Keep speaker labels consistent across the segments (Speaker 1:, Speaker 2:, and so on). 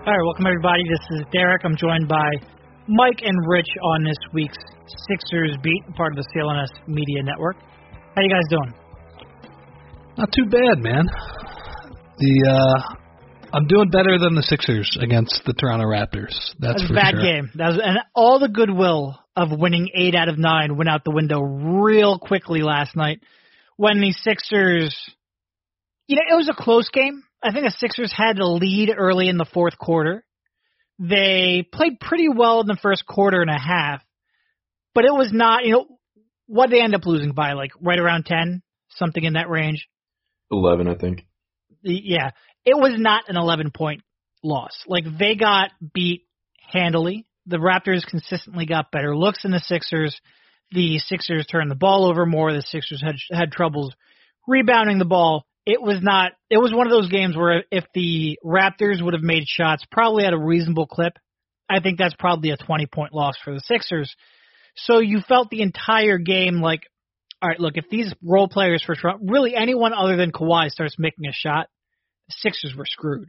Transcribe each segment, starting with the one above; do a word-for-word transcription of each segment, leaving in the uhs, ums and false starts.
Speaker 1: All right, welcome everybody. This is Derek. I'm joined by Mike and Rich on this week's Sixers Beat, part of the C L N S Media Network. How you guys doing?
Speaker 2: Not too bad, man. The uh, I'm doing better than the Sixers against the Toronto Raptors. That's
Speaker 1: that was
Speaker 2: for
Speaker 1: a bad
Speaker 2: sure.
Speaker 1: game. That was, and all the goodwill of winning eight out of nine went out the window real quickly last night when the Sixers. You know, it was a close game. I think the Sixers had a lead early in the fourth quarter. They played pretty well in the first quarter and a half, but it was not, you know, what did they end up losing by, like right around ten, something in that range?
Speaker 3: eleven, I think.
Speaker 1: Yeah, it was not an eleven-point loss. Like, they got beat handily. The Raptors consistently got better looks than the Sixers. The Sixers turned the ball over more. The Sixers had had troubles rebounding the ball. It was not. It was one of those games where if the Raptors would have made shots, probably at a reasonable clip, I think that's probably a twenty-point loss for the Sixers. So you felt the entire game like, all right, look, if these role players for really anyone other than Kawhi starts making a shot, the Sixers were screwed.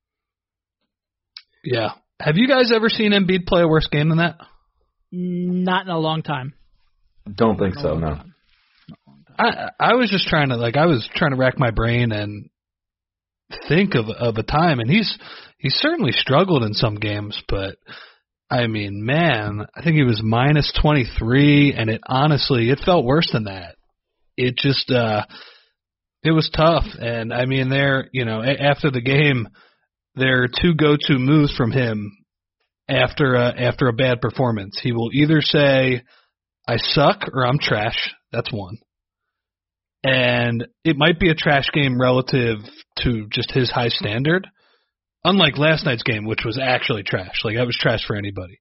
Speaker 2: Yeah. Have you guys ever seen Embiid play a worse game than that?
Speaker 1: Not in a long time.
Speaker 3: Don't think so, no.
Speaker 1: Time.
Speaker 2: I I was just trying to like I was trying to rack my brain and think of of a time, and he's he's certainly struggled in some games, but I mean, man, I think he was minus twenty-three, and it honestly it felt worse than that. It just uh, it was tough, and I mean, there you know after the game, there are two go-to moves from him after uh, after a bad performance. He will either say, "I suck" or "I'm trash." That's one. And it might be a trash game relative to just his high standard, unlike last night's game, which was actually trash. Like, that was trash for anybody.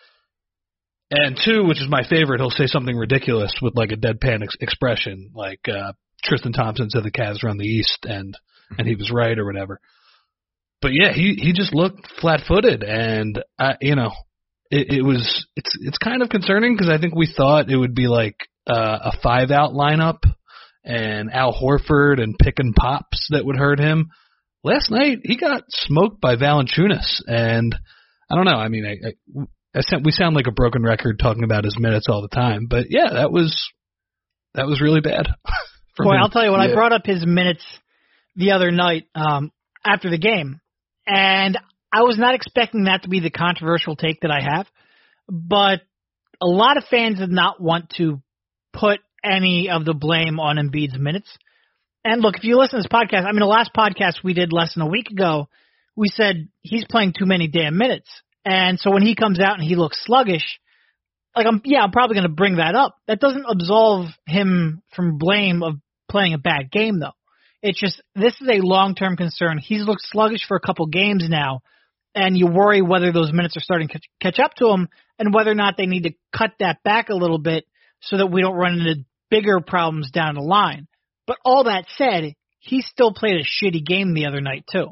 Speaker 2: And two, which is my favorite, he'll say something ridiculous with, like, a deadpan ex- expression, like uh, Tristan Thompson said the Cavs run the East, and and he was right or whatever. But, yeah, he, he just looked flat-footed, and, uh, you know, it, it was it's it's kind of concerning because I think we thought it would be, like, uh, a five-out lineup, and Al Horford and pick and pops that would hurt him. Last night, he got smoked by Valanciunas, and I don't know. I mean, I, I, I sound, we sound like a broken record talking about his minutes all the time, but yeah, that was that was really bad.
Speaker 1: Boy,
Speaker 2: him.
Speaker 1: I'll tell you, when
Speaker 3: yeah.
Speaker 1: I brought up his minutes the other night um, after the game, and I was not expecting that to be the controversial take that I have, but a lot of fans did not want to put any of the blame on Embiid's minutes. And look, if you listen to this podcast, I mean, the last podcast we did less than a week ago, we said he's playing too many damn minutes. And so when he comes out and he looks sluggish, like, I'm, yeah, I'm probably going to bring that up. That doesn't absolve him from blame of playing a bad game, though. It's just, this is a long-term concern. He's looked sluggish for a couple games now, and you worry whether those minutes are starting to catch up to him and whether or not they need to cut that back a little bit so that we don't run into bigger problems down the line. But all that said, he still played a shitty game the other night too.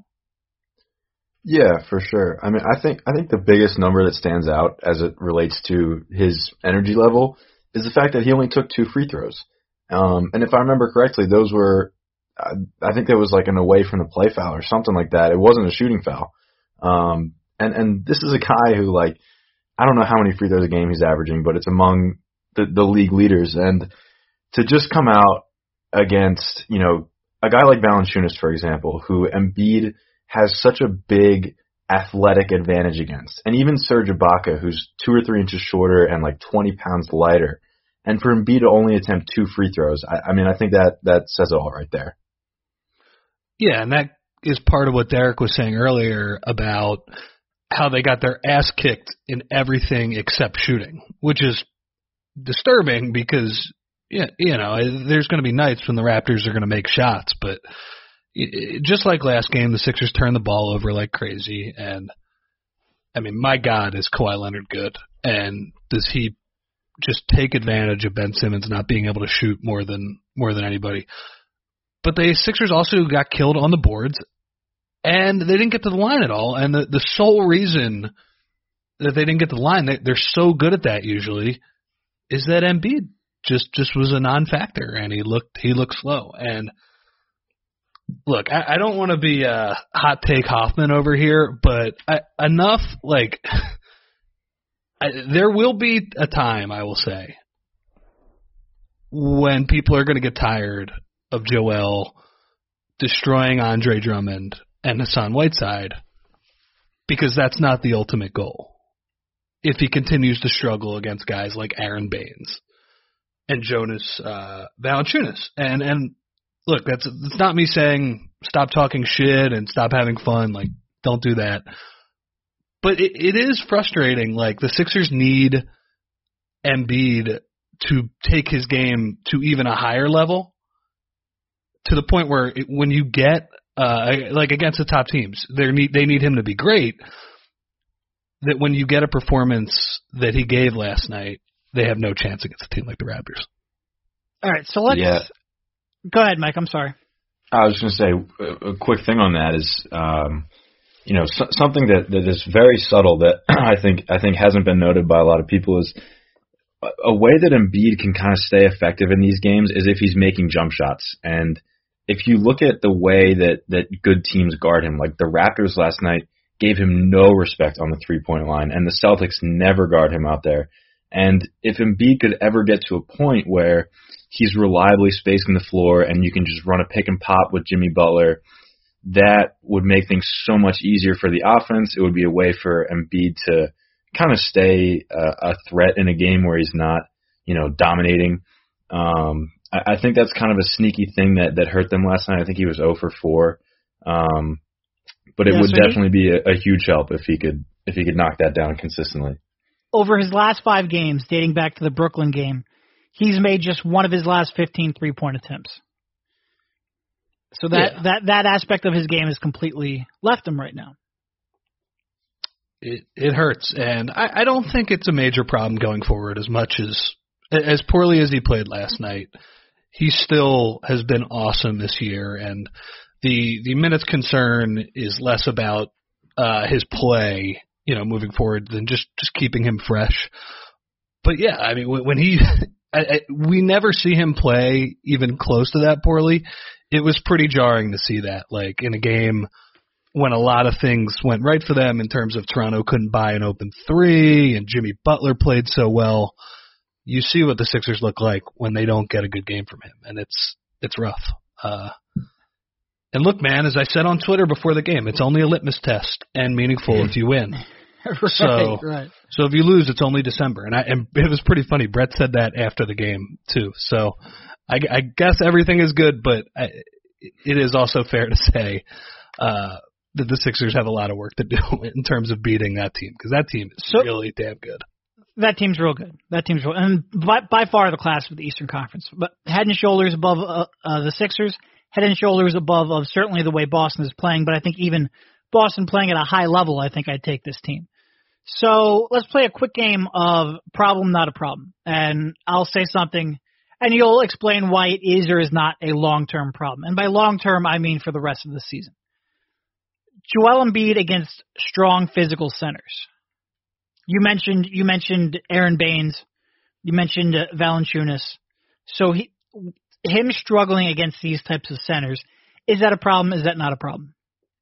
Speaker 3: Yeah, for sure. I mean, I think I think the biggest number that stands out as it relates to his energy level is the fact that he only took two free throws. Um, and if I remember correctly, those were, I, I think there was like an away from the play foul or something like that. It wasn't a shooting foul. Um, and, and this is a guy who, like, I don't know how many free throws a game he's averaging, but it's among the, the league leaders. And to just come out against, you know, a guy like Valanciunas, for example, who Embiid has such a big athletic advantage against, and even Serge Ibaka, who's two or three inches shorter and like twenty pounds lighter, and for Embiid to only attempt two free throws, I, I mean, I think that that says it all right there.
Speaker 2: Yeah, and that is part of what Derek was saying earlier about how they got their ass kicked in everything except shooting, which is disturbing because, yeah, you know, there's going to be nights when the Raptors are going to make shots, but it, just like last game, the Sixers turned the ball over like crazy, and I mean, my God, is Kawhi Leonard good, and does he just take advantage of Ben Simmons not being able to shoot more than more than anybody? But the Sixers also got killed on the boards, and they didn't get to the line at all, and the, the sole reason that they didn't get to the line, they, they're so good at that usually, is that Embiid just, just was a non-factor, and he looked he looked slow. And look, I, I don't want to be a hot take Hoffman over here, but I, enough, like, I, there will be a time, I will say, when people are going to get tired of Joel destroying Andre Drummond and Hassan Whiteside, because that's not the ultimate goal. If he continues to struggle against guys like Aaron Baines and Jonas uh, Valanciunas. And, and look, that's, that's not me saying stop talking shit and stop having fun. Like, don't do that. But it, it is frustrating. Like, the Sixers need Embiid to take his game to even a higher level, to the point where it, when you get, uh, like against the top teams, they need, they need him to be great, that when you get a performance that he gave last night, they have no chance against a team like the Raptors.
Speaker 1: All right, so let's
Speaker 3: yeah.
Speaker 1: go ahead, Mike. I'm sorry.
Speaker 3: I was going to say a, a quick thing on that is, um, you know, so, something that, that is very subtle that I think I think hasn't been noted by a lot of people is a, a way that Embiid can kind of stay effective in these games is if he's making jump shots. And if you look at the way that, that good teams guard him, like the Raptors last night gave him no respect on the three-point line, and the Celtics never guard him out there. And if Embiid could ever get to a point where he's reliably spacing the floor and you can just run a pick and pop with Jimmy Butler, that would make things so much easier for the offense. It would be a way for Embiid to kind of stay a, a threat in a game where he's not, you know, dominating. Um, I, I think that's kind of a sneaky thing that, that hurt them last night. I think he was zero for four. Um, but it
Speaker 1: yeah,
Speaker 3: would
Speaker 1: so
Speaker 3: definitely
Speaker 1: he,
Speaker 3: be a, a huge help if he could if he could knock that down consistently.
Speaker 1: Over his last five games, dating back to the Brooklyn game, he's made just one of his last fifteen three-point attempts. So that, yeah. that, that aspect of his game has completely left him right now.
Speaker 2: It it hurts, and I, I don't think it's a major problem going forward as much as as poorly as he played last night. He still has been awesome this year, and the the minutes concern is less about uh, his play, you know, moving forward than just, just keeping him fresh. But yeah, I mean, when, when he I, I, we never see him play even close to that poorly. It was pretty jarring to see that, like in a game when a lot of things went right for them in terms of Toronto couldn't buy an open three and Jimmy Butler played so well. You see what the Sixers look like when they don't get a good game from him, and it's it's rough. Uh, and look, man, as I said on Twitter before the game, it's only a litmus test and meaningful if you win.
Speaker 1: right,
Speaker 2: so,
Speaker 1: right.
Speaker 2: so if you lose, it's only December. And, I, and it was pretty funny. Brett said that after the game, too. So I, I guess everything is good, but I, it is also fair to say uh, that the Sixers have a lot of work to do in terms of beating that team, because that team is so, really damn good.
Speaker 1: That team's real good. That team's real, and by, by far the class of the Eastern Conference. But head and shoulders above uh, uh, the Sixers, head and shoulders above of certainly the way Boston is playing, but I think even Boston playing at a high level, I think I'd take this team. So let's play a quick game of problem, not a problem. And I'll say something, and you'll explain why it is or is not a long-term problem. And by long-term, I mean for the rest of the season. Joel Embiid against strong physical centers. You mentioned you mentioned Aaron Baines. You mentioned uh, Valanciunas. So he, him struggling against these types of centers, is that a problem? Is that not a problem?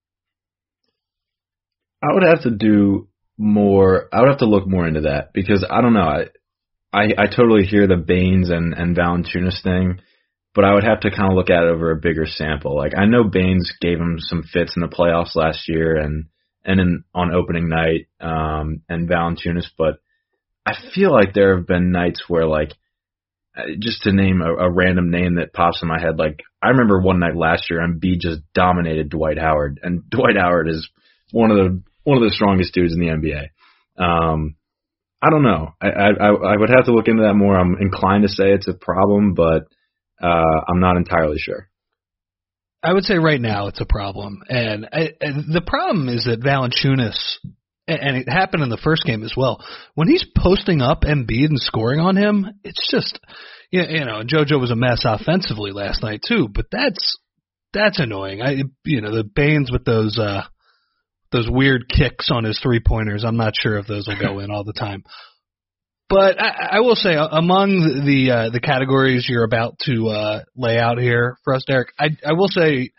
Speaker 3: I would have to do more. I would have to look more into that because I don't know. I I, I totally hear the Baines and, and Valanciunas thing, but I would have to kind of look at it over a bigger sample. Like I know Baines gave him some fits in the playoffs last year and and in, on opening night um, and Valanciunas, but I feel like there have been nights where like just to name a, a random name that pops in my head, like I remember one night last year Embiid just dominated Dwight Howard, and Dwight Howard is one of the one of the strongest dudes in the N B A. Um, I don't know. I, I I would have to look into that more. I'm inclined to say it's a problem, but uh, I'm not entirely sure.
Speaker 2: I would say right now it's a problem, and, I, and the problem is that Valanciunas, and it happened in the first game as well, when he's posting up Embiid and scoring on him, it's just, you know, JoJo was a mess offensively last night too, but that's that's annoying. I you know the Baines with those uh, those weird kicks on his three pointers. I'm not sure if those will go in all the time. But I, I will say, among the uh, the categories you're about to uh, lay out here for us, Derek, I, I will say,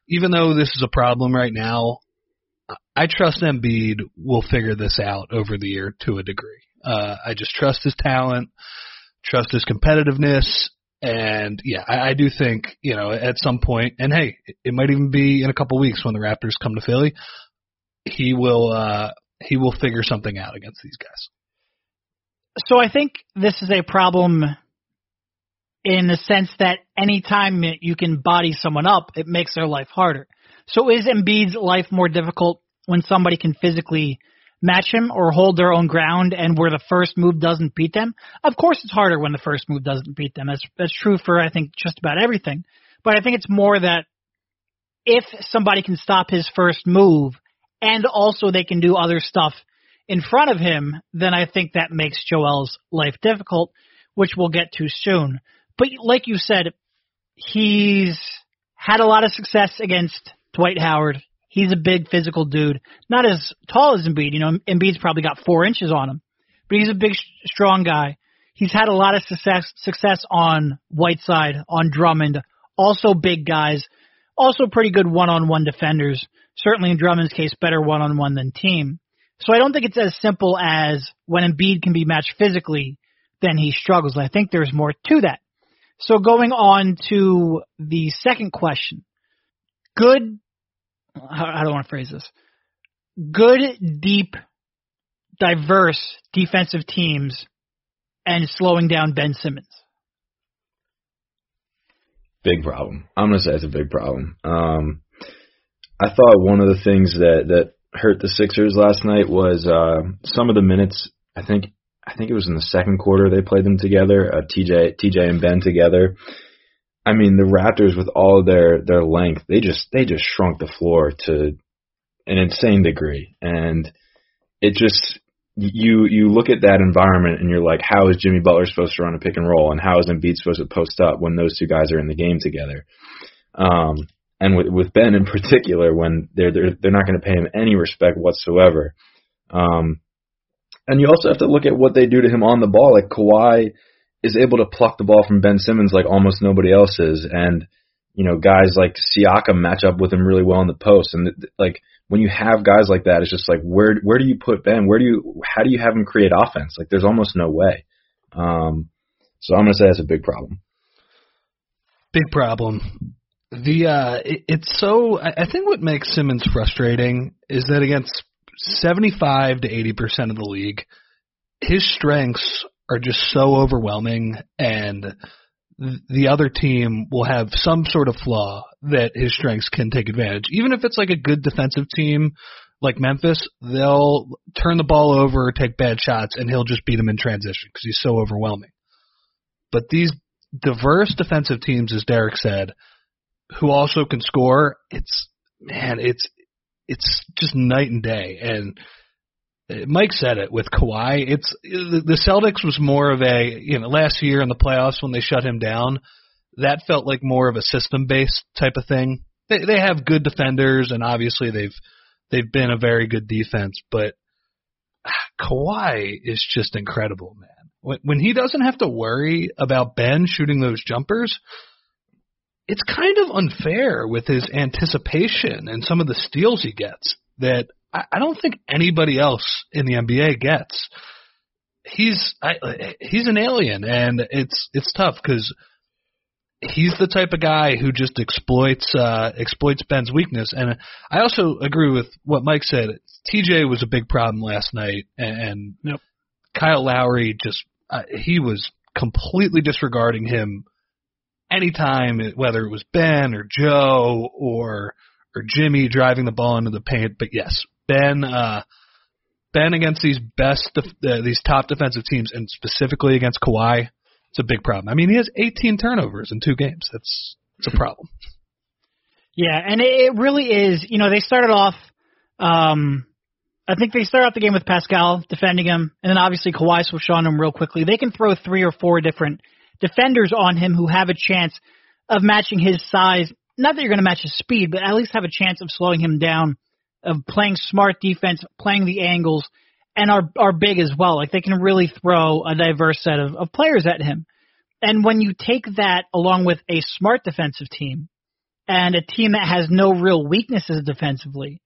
Speaker 2: even though this is a problem right now, I trust Embiid will figure this out over the year to a degree. Uh, I just trust his talent, trust his competitiveness, and yeah, I, I do think, you know, at some point, and hey, it might even be in a couple weeks when the Raptors come to Philly, he will uh, he will figure something out against these guys.
Speaker 1: So I think this is a problem in the sense that anytime you can body someone up, it makes their life harder. So is Embiid's life more difficult when somebody can physically match him or hold their own ground and where the first move doesn't beat them? Of course it's harder when the first move doesn't beat them. That's, that's true for, I think, just about everything. But I think it's more that if somebody can stop his first move and also they can do other stuff in front of him, then I think that makes Joel's life difficult, which we'll get to soon. But like you said, he's had a lot of success against Dwight Howard. He's a big physical dude. Not as tall as Embiid. You know, Embiid's probably got four inches on him. But he's a big, strong guy. He's had a lot of success success on Whiteside, on Drummond. Also big guys. Also pretty good one-on-one defenders. Certainly in Drummond's case, better one-on-one than team. So I don't think it's as simple as when Embiid can be matched physically, then he struggles. I think there's more to that. So going on to the second question. Good, how do I want to phrase this? Good, deep, diverse defensive teams and slowing down Ben Simmons.
Speaker 3: Big problem. I'm going to say it's a big problem. Um, I thought one of the things that, that hurt the Sixers last night was uh, some of the minutes. I think I think it was in the second quarter they played them together, uh, T J T J and Ben together. I mean, the Raptors with all of their, their length, they just they just shrunk the floor to an insane degree. And it just you you look at that environment and you're like, how is Jimmy Butler supposed to run a pick and roll, and how is Embiid supposed to post up when those two guys are in the game together? Um, and with with Ben in particular, when they're they're they're not going to pay him any respect whatsoever. Um, and you also have to look at what they do to him on the ball. Like Kawhi is able to pluck the ball from Ben Simmons like almost nobody else is, and you know guys like Siakam match up with him really well in the post. And like when you have guys like that, it's just like where where do you put Ben? Where do you how do you have him create offense? Like there's almost no way. Um, so I'm gonna say that's a big problem.
Speaker 2: Big problem. The uh, it, it's so I think what makes Simmons frustrating is that against seventy-five to eighty percent of the league, his strengths are just so overwhelming, and the other team will have some sort of flaw that his strengths can take advantage. Even if it's like a good defensive team like Memphis, they'll turn the ball over, take bad shots, and he'll just beat them in transition because he's so overwhelming. But these diverse defensive teams, as Derek said, who also can score, it's man, it's it's just night and day. And Mike said it with Kawhi. It's the Celtics was more of a, you know, last year in the playoffs when they shut him down, that felt like more of a system-based type of thing. They they have good defenders, and obviously they've they've been a very good defense, but Kawhi is just incredible, man. When when he doesn't have to worry about Ben shooting those jumpers, it's kind of unfair with his anticipation and some of the steals he gets that I don't think anybody else in the N B A gets. He's I, he's an alien, and it's it's tough because he's the type of guy who just exploits uh, exploits Ben's weakness. And I also agree with what Mike said. T J was a big problem last night, and, and
Speaker 1: yep.
Speaker 2: Kyle Lowry just uh, he was completely disregarding him anytime, whether it was Ben or Joe or or Jimmy driving the ball into the paint. But yes. Ben, uh, Ben against these best, def- uh, these top defensive teams, and specifically against Kawhi, it's a big problem. I mean, he has eighteen turnovers in two games. That's it's a problem.
Speaker 1: Yeah, and it really is. You know, they started off. Um, I think they started off the game with Pascal defending him, and then obviously Kawhi switched on him real quickly. They can throw three or four different defenders on him who have a chance of matching his size. Not that you're going to match his speed, but at least have a chance of slowing him down, of playing smart defense, playing the angles, and are are big as well. Like they can really throw a diverse set of, of players at him. And when you take that along with a smart defensive team and a team that has no real weaknesses defensively.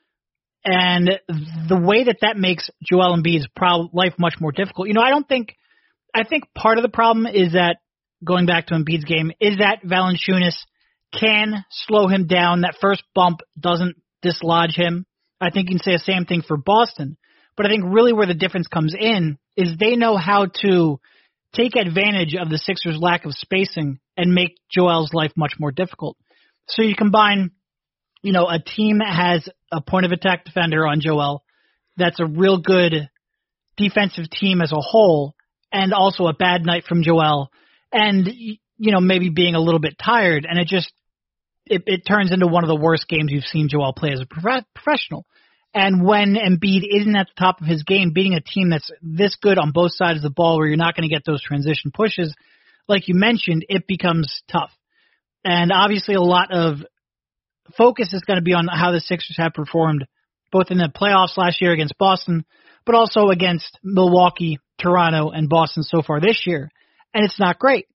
Speaker 1: And the way that that makes Joel Embiid's pro- life much more difficult. You know, I don't think, I think part of the problem is that, going back to Embiid's game, is that Valanciunas can slow him down. That first bump doesn't dislodge him. I think you can say the same thing for Boston. But I think really where the difference comes in is they know how to take advantage of the Sixers' lack of spacing and make Joel's life much more difficult. So you combine, you know, a team that has a point of attack defender on Joel, that's a real good defensive team as a whole, and also a bad night from Joel, and, you know, maybe being a little bit tired, and it just, it, it turns into one of the worst games you've seen Joel play as a prof- professional. And when Embiid isn't at the top of his game, beating a team that's this good on both sides of the ball where you're not going to get those transition pushes, like you mentioned, it becomes tough. And obviously a lot of focus is going to be on how the Sixers have performed both in the playoffs last year against Boston, but also against Milwaukee, Toronto, and Boston so far this year. And it's not great.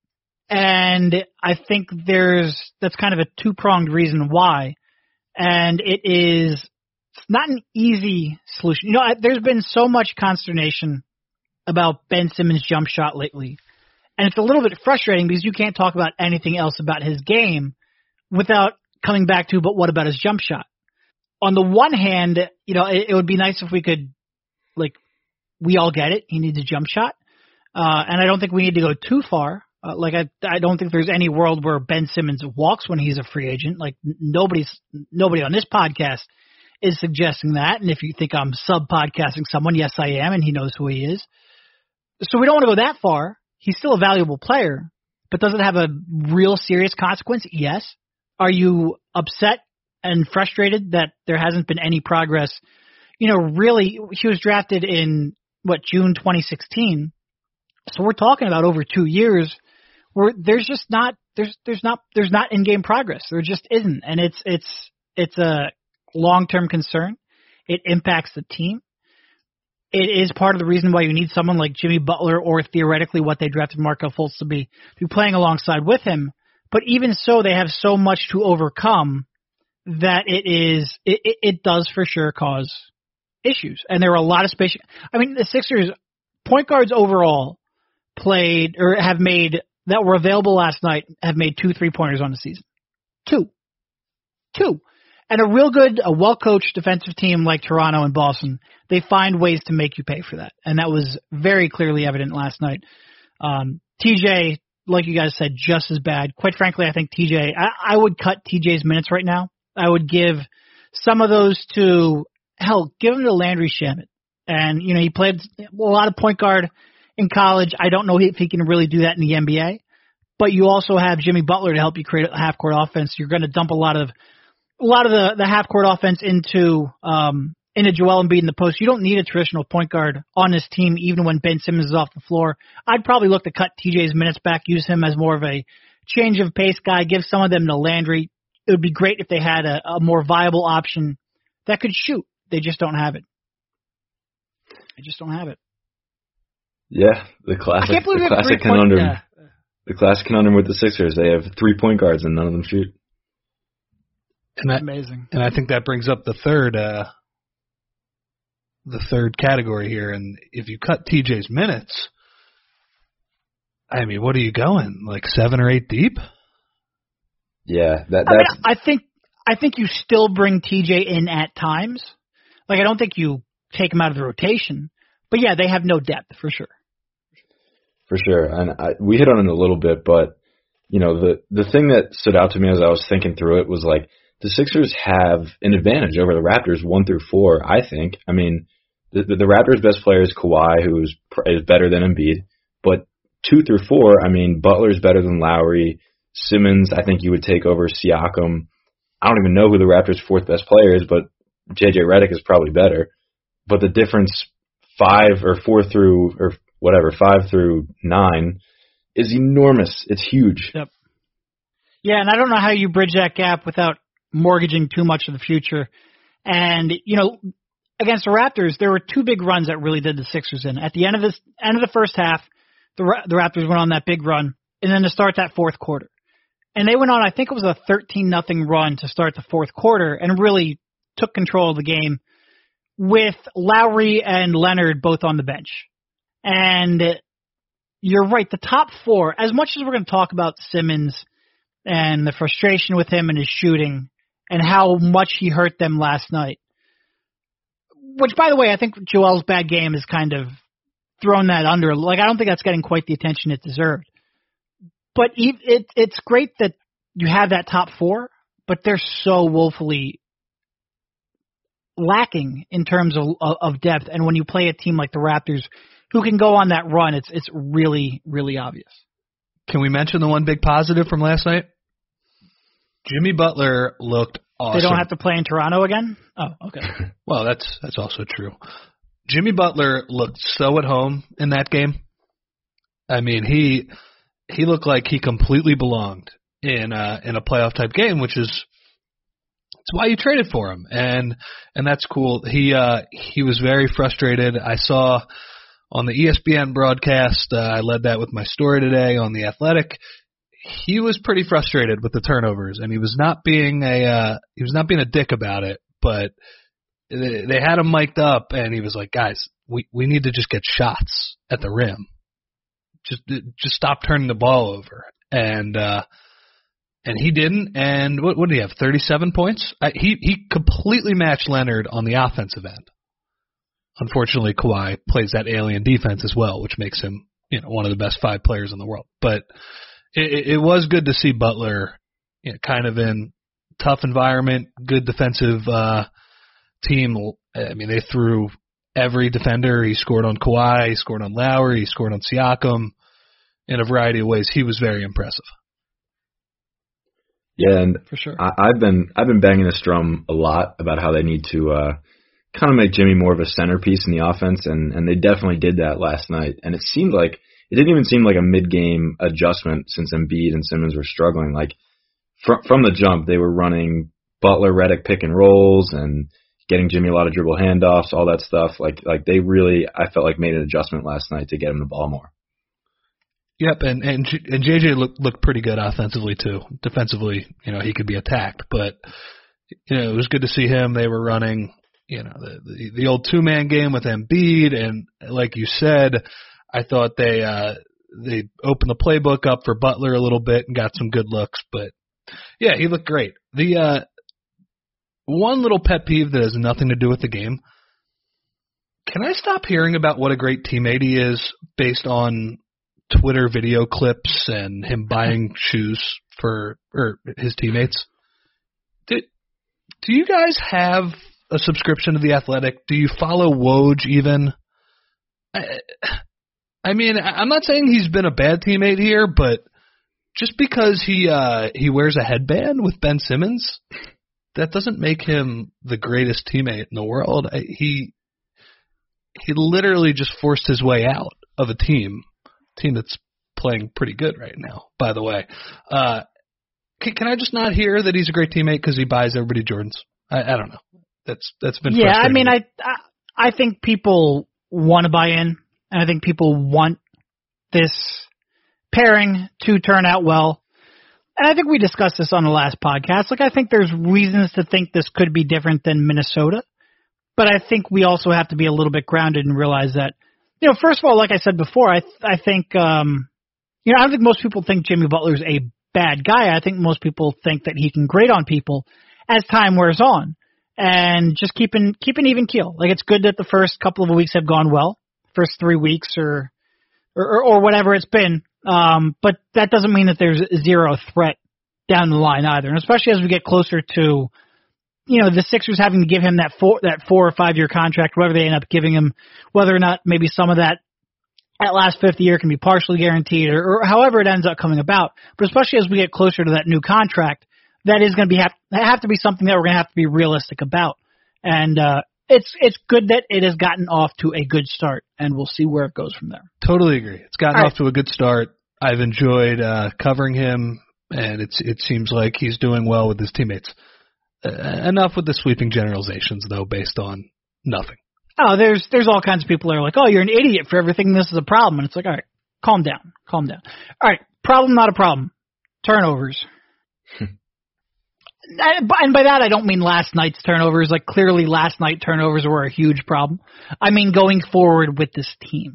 Speaker 1: And I think there's, that's kind of a two-pronged reason why. And it is, it's not an easy solution. You know, I, there's been so much consternation about Ben Simmons' jump shot lately. And it's a little bit frustrating because you can't talk about anything else about his game without coming back to, but what about his jump shot? On the one hand, you know, it, it would be nice if we could, like, we all get it. He needs a jump shot. Uh, and I don't think we need to go too far. Uh, like, I, I don't think there's any world where Ben Simmons walks when he's a free agent. Like, nobody's, nobody on this podcast is suggesting that. And if you think I'm sub-podcasting someone, yes, I am, and he knows who he is. So we don't want to go that far. He's still a valuable player, but does it have a real serious consequence? Yes. Are you upset and frustrated that there hasn't been any progress? You know, really, he was drafted in, what, June twenty sixteen. So we're talking about over two years where there's just not, there's, there's not, there's not in-game progress. There just isn't. And it's, it's, it's a long-term concern. It impacts the team. It is part of the reason why you need someone like Jimmy Butler or theoretically what they drafted Markelle Fultz to be, to be playing alongside with him. But even so, they have so much to overcome that it is, it, it, it does for sure cause issues. And there are a lot of space. I mean, the Sixers point guards overall played or have made that were available last night have made two three pointers on the season. Two. Two. And a real good, a well-coached defensive team like Toronto and Boston, they find ways to make you pay for that. And that was very clearly evident last night. Um, T J, like you guys said, just as bad. Quite frankly, I think T J, I, I would cut T J's minutes right now. I would give some of those to, hell, give them to Landry Shamet. And, you know, he played a lot of point guard in college. I don't know if he can really do that in the N B A. But you also have Jimmy Butler to help you create a half-court offense. You're going to dump a lot of a lot of the, the half-court offense into um, into Joel Embiid in the post. You don't need a traditional point guard on this team, even when Ben Simmons is off the floor. I'd probably look to cut T J's minutes back, use him as more of a change of pace guy, give some of them to Landry. It would be great if they had a, a more viable option that could shoot. They just don't have it. They just don't have it.
Speaker 3: Yeah, the classic,
Speaker 1: I can't believe
Speaker 3: the
Speaker 1: we have
Speaker 3: classic
Speaker 1: three point,
Speaker 3: conundrum.
Speaker 1: uh,
Speaker 3: The classic conundrum with the Sixers. They have three point guards and none of them shoot.
Speaker 2: And that,
Speaker 1: amazing.
Speaker 2: And I think that brings up the third, uh, the third category here. And if you cut T J's minutes, I mean, what are you going, like seven or eight deep?
Speaker 3: Yeah, that
Speaker 1: I,
Speaker 3: that's.
Speaker 1: mean, I think I think you still bring T J in at times. Like I don't think you take him out of the rotation, but yeah, they have no depth for sure.
Speaker 3: For sure, and I, we hit on it a little bit, but you know the the thing that stood out to me as I was thinking through it was like the Sixers have an advantage over the Raptors one through four. I think. I mean, the the, the Raptors' best player is Kawhi, who is is better than Embiid, but two through four, I mean, Butler's better than Lowry. Simmons, I think you would take over Siakam. I don't even know who the Raptors' fourth best player is, but J J Redick is probably better. But the difference five or four through or whatever, five through nine, is enormous. It's huge.
Speaker 1: Yep. Yeah, and I don't know how you bridge that gap without mortgaging too much of the future. And, you know, against the Raptors, there were two big runs that really did the Sixers in. At the end of this, end of the first half, the, the Raptors went on that big run, and then to start that fourth quarter. And they went on, I think it was a thirteen nothing run to start the fourth quarter and really took control of the game with Lowry and Leonard both on the bench. And you're right, the top four, as much as we're going to talk about Simmons and the frustration with him and his shooting and how much he hurt them last night, which, by the way, I think Joel's bad game has kind of thrown that under. Like, I don't think that's getting quite the attention it deserved. But it, it's great that you have that top four, but they're so woefully lacking in terms of, of depth. And when you play a team like the Raptors, who can go on that run, it's it's really, really obvious.
Speaker 2: Can we mention the one big positive from last night? Jimmy Butler looked awesome.
Speaker 1: They don't have to play in Toronto again? Oh, okay.
Speaker 2: Well, that's that's also true. Jimmy Butler looked so at home in that game. I mean, he he looked like he completely belonged in uh, in a playoff type game, which is it's why you traded for him, and and that's cool. He uh, he was very frustrated. I saw on the E S P N broadcast, uh, I led that with my story today on The Athletic. He was pretty frustrated with the turnovers, and he was not being a uh, he was not being a dick about it. But they, they had him mic'd up, and he was like, "Guys, we we need to just get shots at the rim. Just just stop turning the ball over." And uh, and he didn't. And what what did he have? thirty-seven points. I, he he completely matched Leonard on the offensive end. Unfortunately, Kawhi plays that alien defense as well, which makes him, you know, one of the best five players in the world. But it, it was good to see Butler, you know, kind of in tough environment, good defensive uh, team. I mean, they threw every defender. He scored on Kawhi, he scored on Lowry, he scored on Siakam in a variety of ways. He was very impressive.
Speaker 3: Yeah, and
Speaker 1: for sure,
Speaker 3: I, I've been I've been banging this drum a lot about how they need to uh, kind of make Jimmy more of a centerpiece in the offense, and, and they definitely did that last night. And it seemed like it didn't even seem like a mid-game adjustment since Embiid and Simmons were struggling. Like from from the jump, they were running Butler Redick pick and rolls and getting Jimmy a lot of dribble handoffs, all that stuff. Like like they really, I felt like made an adjustment last night to get him the ball more.
Speaker 2: Yep, and and and J J looked looked pretty good offensively too. Defensively, you know, he could be attacked, but you know, it was good to see him. They were running, you know, the the, the old two man game with Embiid, and like you said, I thought they uh, they opened the playbook up for Butler a little bit and got some good looks. But yeah, he looked great. The uh, one little pet peeve that has nothing to do with the game. Can I stop hearing about what a great teammate he is based on Twitter video clips and him buying shoes for or his teammates? Do, do you guys have a subscription to The Athletic? Do you follow Woj even? I, I mean, I'm not saying he's been a bad teammate here, but just because he uh, he wears a headband with Ben Simmons, that doesn't make him the greatest teammate in the world. I, he he literally just forced his way out of a team. Team that's playing pretty good right now, by the way. Uh, can, can I just not hear that he's a great teammate because he buys everybody Jordans? I, I don't know. That's that's been
Speaker 1: yeah. I mean,
Speaker 2: I
Speaker 1: I I think people want to buy in, and I think people want this pairing to turn out well. And I think we discussed this on the last podcast. Like, I think there's reasons to think this could be different than Minnesota, but I think we also have to be a little bit grounded and realize that. You know, first of all, like I said before, I th- I think, um, you know, I don't think most people think Jimmy Butler's a bad guy. I think most people think that he can grate on people as time wears on, and just keep an, keep an even keel. Like, it's good that the first couple of weeks have gone well, first three weeks or or, or whatever it's been, um, but that doesn't mean that there's zero threat down the line either, and especially as we get closer to, you know, the Sixers having to give him that four that four or five year contract, whatever they end up giving him, whether or not maybe some of that that last fifth year can be partially guaranteed, or, or however it ends up coming about. But especially as we get closer to that new contract, that is going to be have, have to be something that we're going to have to be realistic about. And uh, it's it's good that it has gotten off to a good start, and we'll see where it goes from there.
Speaker 2: Totally agree. It's gotten
Speaker 1: All
Speaker 2: off
Speaker 1: right.
Speaker 2: to a good start. I've enjoyed uh, covering him, and it's it seems like he's doing well with his teammates. Uh, enough with the sweeping generalizations, though, based on nothing.
Speaker 1: Oh, there's there's all kinds of people that are like, oh, you're an idiot for everything. This is a problem. And it's like, all right, calm down. Calm down. All right, problem, not a problem. Turnovers. And by that, I don't mean last night's turnovers. Like, clearly last night turnovers were a huge problem. I mean going forward with this team.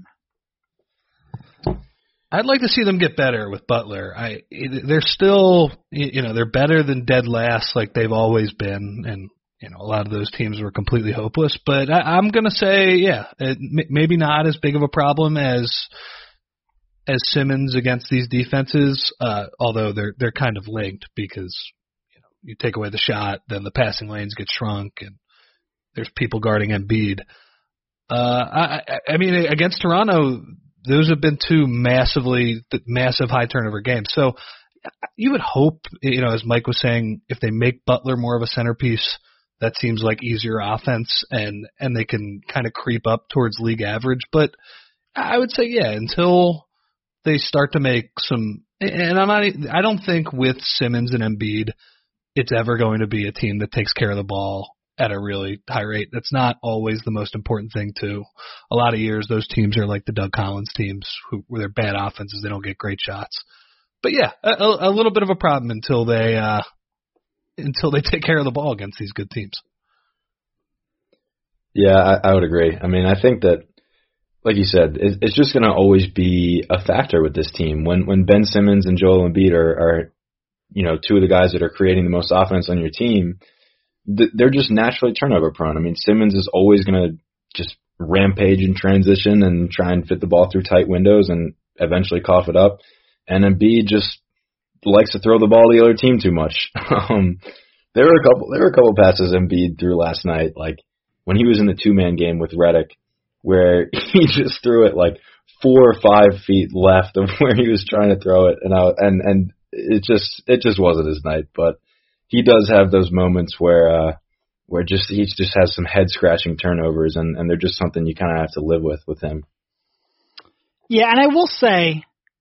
Speaker 2: I'd like to see them get better with Butler. I They're still, you know, they're better than dead last like they've always been. And, you know, a lot of those teams were completely hopeless. But I, I'm going to say, yeah, it, maybe not as big of a problem as as Simmons against these defenses, uh, although they're they're kind of linked because you take away the shot, then the passing lanes get shrunk, and there's people guarding Embiid. Uh, I, I mean, against Toronto, those have been two massively, massive high turnover games. So you would hope, you know, as Mike was saying, if they make Butler more of a centerpiece, that seems like easier offense, and and they can kind of creep up towards league average. But I would say, yeah, until they start to make some, and I'm not, I don't think with Simmons and Embiid, it's ever going to be a team that takes care of the ball at a really high rate. That's not always the most important thing, too. A lot of years, those teams are like the Doug Collins teams, who, where they're bad offenses, they don't get great shots. But yeah, a, a little bit of a problem until they uh, until they take care of the ball against these good teams.
Speaker 3: Yeah, I, I would agree. I mean, I think that, like you said, it, it's just going to always be a factor with this team. When when Ben Simmons and Joel Embiid are, are you know, two of the guys that are creating the most offense on your team, th- they're just naturally turnover prone. I mean, Simmons is always going to just rampage in transition and try and fit the ball through tight windows and eventually cough it up. And Embiid just likes to throw the ball to the other team too much. um, there were a couple, there were a couple passes Embiid threw last night, like when he was in the two-man game with Redick, where he just threw it like four or five feet left of where he was trying to throw it, and I, and and it just it just wasn't his night. But he does have those moments where uh, where just he just has some head-scratching turnovers, and, and they're just something you kind of have to live with with him.
Speaker 1: Yeah, and I will say,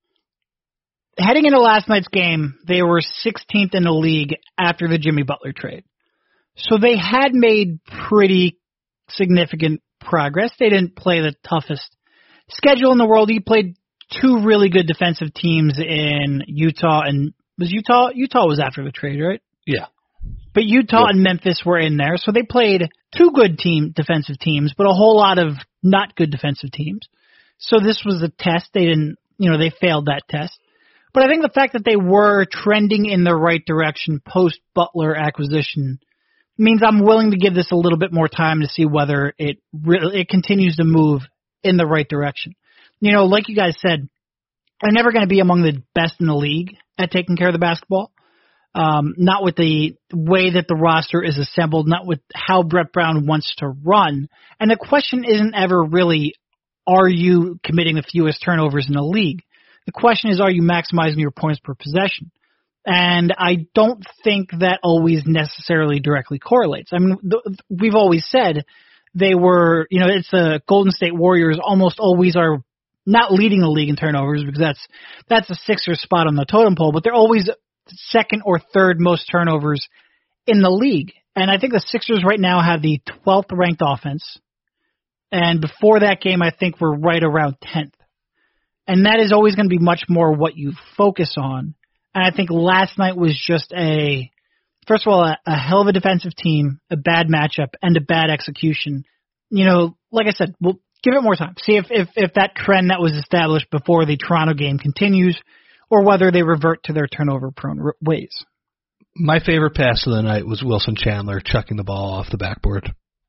Speaker 1: heading into last night's game, they were sixteenth in the league after the Jimmy Butler trade. So they had made pretty significant progress. They didn't play the toughest schedule in the world. He played two really good defensive teams in Utah, and was Utah? Utah was after the trade, right?
Speaker 2: Yeah.
Speaker 1: But Utah
Speaker 3: yeah.
Speaker 1: and Memphis were in there, so they played two good team defensive teams, but a whole lot of not good defensive teams. So this was a test. They didn't, you know, they failed that test. But I think the fact that they were trending in the right direction post Butler acquisition means I'm willing to give this a little bit more time to see whether it really it continues to move in the right direction. You know, like you guys said, they're never going to be among the best in the league at taking care of the basketball. Um, not with the way that the roster is assembled, not with how Brett Brown wants to run. And the question isn't ever really, are you committing the fewest turnovers in the league? The question is, are you maximizing your points per possession? And I don't think that always necessarily directly correlates. I mean, th- we've always said they were, you know, it's the Golden State Warriors almost always are not leading the league in turnovers because that's that's the Sixers spot on the totem pole, but they're always second or third most turnovers in the league. And I think the Sixers right now have the twelfth ranked offense. And before that game, I think we're right around tenth. And that is always going to be much more what you focus on. And I think last night was just a, first of all, a, a hell of a defensive team, a bad matchup, and a bad execution. You know, like I said, we'll give it more time. See if, if, if that trend that was established before the Toronto game continues or whether they revert to their turnover-prone ways.
Speaker 2: My favorite pass of the night was Wilson Chandler chucking the ball off the backboard.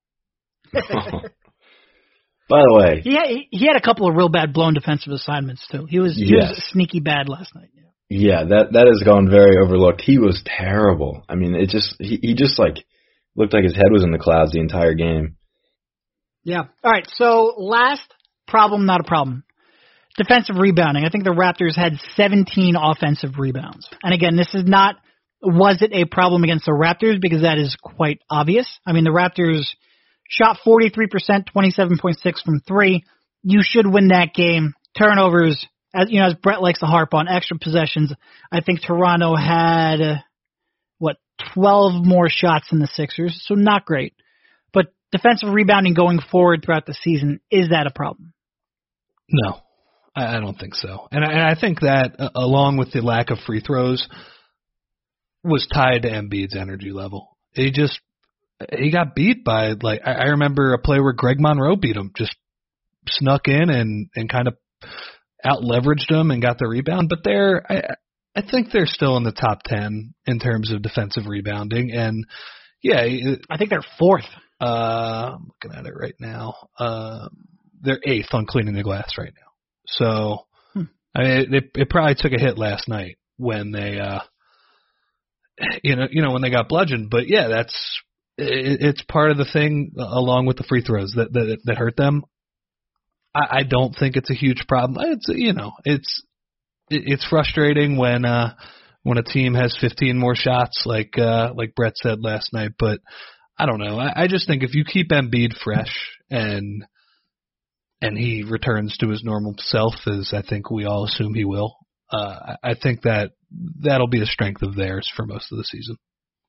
Speaker 3: By the way,
Speaker 1: he had, he had a couple of real bad blown defensive assignments too. He was he
Speaker 3: yes.
Speaker 1: was sneaky bad last night. Yeah.
Speaker 3: Yeah, that that has gone very overlooked. He was terrible. I mean, it just he, he just like looked like his head was in the clouds the entire game.
Speaker 1: Yeah. All right. So last problem, not a problem. Defensive rebounding. I think the Raptors had seventeen offensive rebounds. And again, this is not was it a problem against the Raptors because that is quite obvious. I mean, the Raptors shot forty-three percent, twenty-seven point six from three. You should win that game. Turnovers. As you know, as Brett likes to harp on, extra possessions. I think Toronto had, uh, what, twelve more shots than the Sixers, so not great. But defensive rebounding going forward throughout the season, is that a problem?
Speaker 2: No, I, I don't think so. And I, and I think that, uh, along with the lack of free throws, was tied to Embiid's energy level. He just he got beat by, like, I, I remember a play where Greg Monroe beat him, just snuck in and, and kind of out leveraged him and got the rebound. But they're I I think they're still in the top ten in terms of defensive rebounding, and yeah,
Speaker 1: I think they're fourth.
Speaker 2: Uh, I'm looking at it right now. Uh, they're eighth on cleaning the glass right now. So hmm. I mean, it, it probably took a hit last night when they, uh, you know, you know when they got bludgeoned. But yeah, that's it, it's part of the thing along with the free throws that that, that hurt them. I, I don't think it's a huge problem. It's you know it's it, it's frustrating when uh, when a team has fifteen more shots, like uh, like Brett said last night, but. I don't know. I, I just think if you keep Embiid fresh and and he returns to his normal self, as I think we all assume he will, uh, I think that that'll be a strength of theirs for most of the season.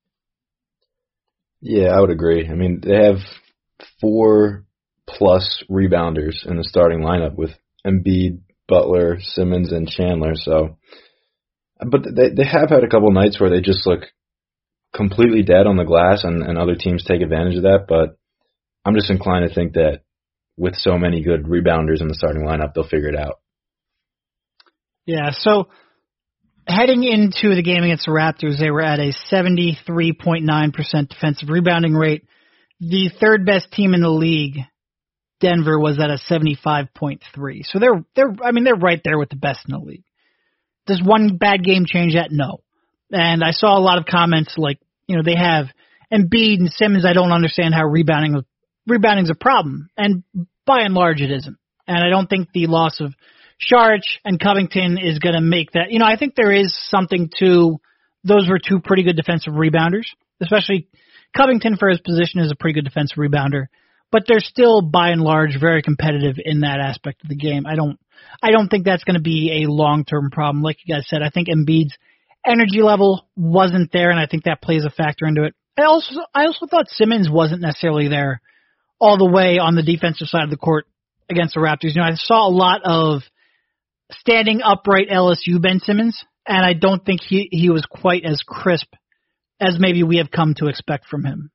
Speaker 3: Yeah, I would agree. I mean, they have four plus rebounders in the starting lineup with Embiid, Butler, Simmons, and Chandler. So, but they they have had a couple nights where they just look completely dead on the glass, and, and other teams take advantage of that, but I'm just inclined to think that with so many good rebounders in the starting lineup, they'll figure it out.
Speaker 1: Yeah, so heading into the game against the Raptors, they were at a seventy-three point nine percent defensive rebounding rate. The third best team in the league, Denver, was at a seventy-five point three. So they're they're I mean they're right there with the best in the league. Does one bad game change that? No. And I saw a lot of comments like, you know, they have Embiid and Simmons. I don't understand how rebounding rebounding's a problem. And by and large, it isn't. And I don't think the loss of Saric and Covington is going to make that. You know, I think there is something to those were two pretty good defensive rebounders, especially Covington for his position is a pretty good defensive rebounder. But they're still, by and large, very competitive in that aspect of the game. I don't, I don't think that's going to be a long-term problem. Like you guys said, I think Embiid's energy level wasn't there, and I think that plays a factor into it. I also I also thought Simmons wasn't necessarily there all the way on the defensive side of the court against the Raptors. You know, I saw a lot of standing upright L S U Ben Simmons, and I don't think he, he was quite as crisp as maybe we have come to expect from him.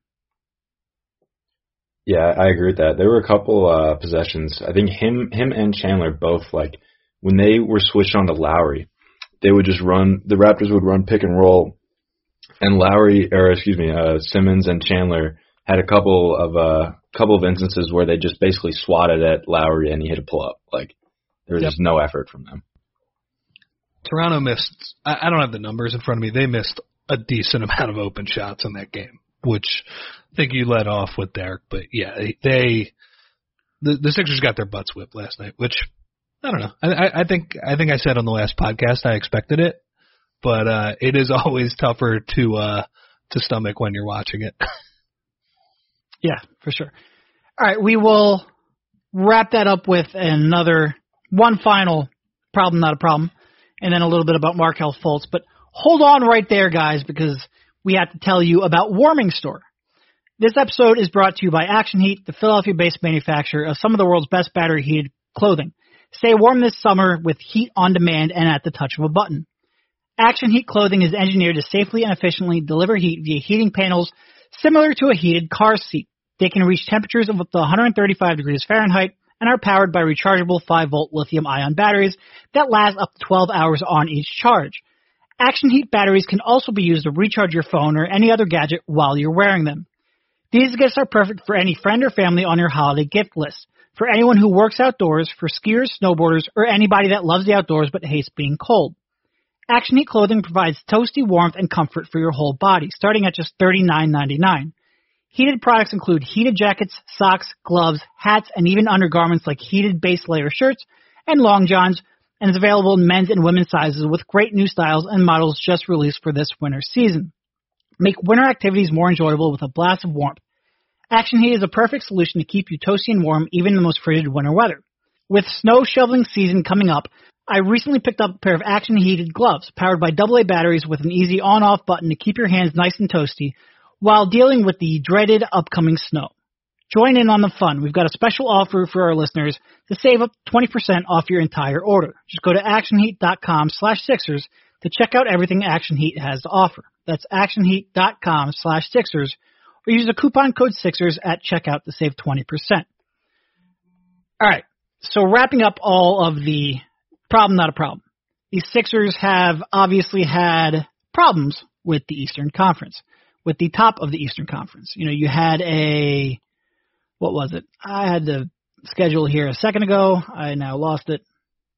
Speaker 3: Yeah, I agree with that. There were a couple uh, possessions. I think him him and Chandler both, like, when they were switched on to Lowry, they would just run, the Raptors would run pick and roll, and Lowry, or excuse me, uh, Simmons and Chandler had a couple of uh, couple of instances where they just basically swatted at Lowry and he hit a pull-up. Like, there was yep. just no effort from them.
Speaker 2: Toronto missed, I, I don't have the numbers in front of me, they missed a decent amount of open shots in that game, which I think you led off with, Derek. But yeah, they, they the, the Sixers got their butts whipped last night, which I don't know. I, I think I think I said on the last podcast I expected it, but uh, it is always tougher to uh, to stomach when you're watching it.
Speaker 1: Yeah, for sure. All right, we will wrap that up with another one final problem, not a problem, and then a little bit about Markelle Fultz. But hold on right there, guys, because we have to tell you about Warming Store. This episode is brought to you by Action Heat, the Philadelphia-based manufacturer of some of the world's best battery-heated clothing. Stay warm this summer with heat on demand and at the touch of a button. Action Heat clothing is engineered to safely and efficiently deliver heat via heating panels similar to a heated car seat. They can reach temperatures of up to one hundred thirty-five degrees Fahrenheit and are powered by rechargeable five volt lithium-ion batteries that last up to twelve hours on each charge. Action Heat batteries can also be used to recharge your phone or any other gadget while you're wearing them. These gifts are perfect for any friend or family on your holiday gift list. For anyone who works outdoors, for skiers, snowboarders, or anybody that loves the outdoors but hates being cold. Action Heat clothing provides toasty warmth and comfort for your whole body, starting at just thirty-nine ninety-nine. Heated products include heated jackets, socks, gloves, hats, and even undergarments like heated base layer shirts and long johns, and is available in men's and women's sizes with great new styles and models just released for this winter season. Make winter activities more enjoyable with a blast of warmth. Action Heat is a perfect solution to keep you toasty and warm even in the most frigid winter weather. With snow shoveling season coming up, I recently picked up a pair of Action Heated gloves powered by double A batteries with an easy on-off button to keep your hands nice and toasty while dealing with the dreaded upcoming snow. Join in on the fun. We've got a special offer for our listeners to save up twenty percent off your entire order. Just go to actionheat.com slash Sixers to check out everything Action Heat has to offer. That's actionheat.com slash Sixers, or use the coupon code Sixers at checkout to save twenty percent. All right, so wrapping up all of the problem, not a problem. The Sixers have obviously had problems with the Eastern Conference, with the top of the Eastern Conference. You know, you had a, what was it? I had the schedule here a second ago. I now lost it.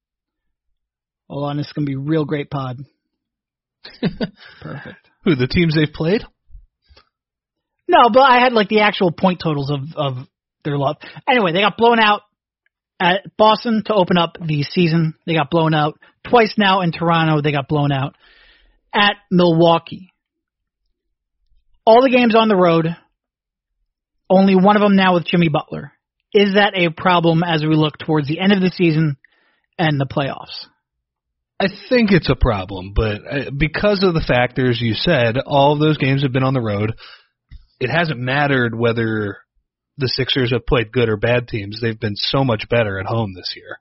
Speaker 1: Hold on, this is going to be a real great pod. Perfect.
Speaker 2: Who, the teams they've played?
Speaker 1: No, but I had like the actual point totals of, of their love. Anyway, they got blown out at Boston to open up the season. They got blown out twice now in Toronto. They got blown out at Milwaukee. All the games on the road, only one of them now with Jimmy Butler. Is that a problem as we look towards the end of the season and the playoffs?
Speaker 2: I think it's a problem, but because of the factors you said, all of those games have been on the road. It hasn't mattered whether the Sixers have played good or bad teams. They've been so much better at home this year.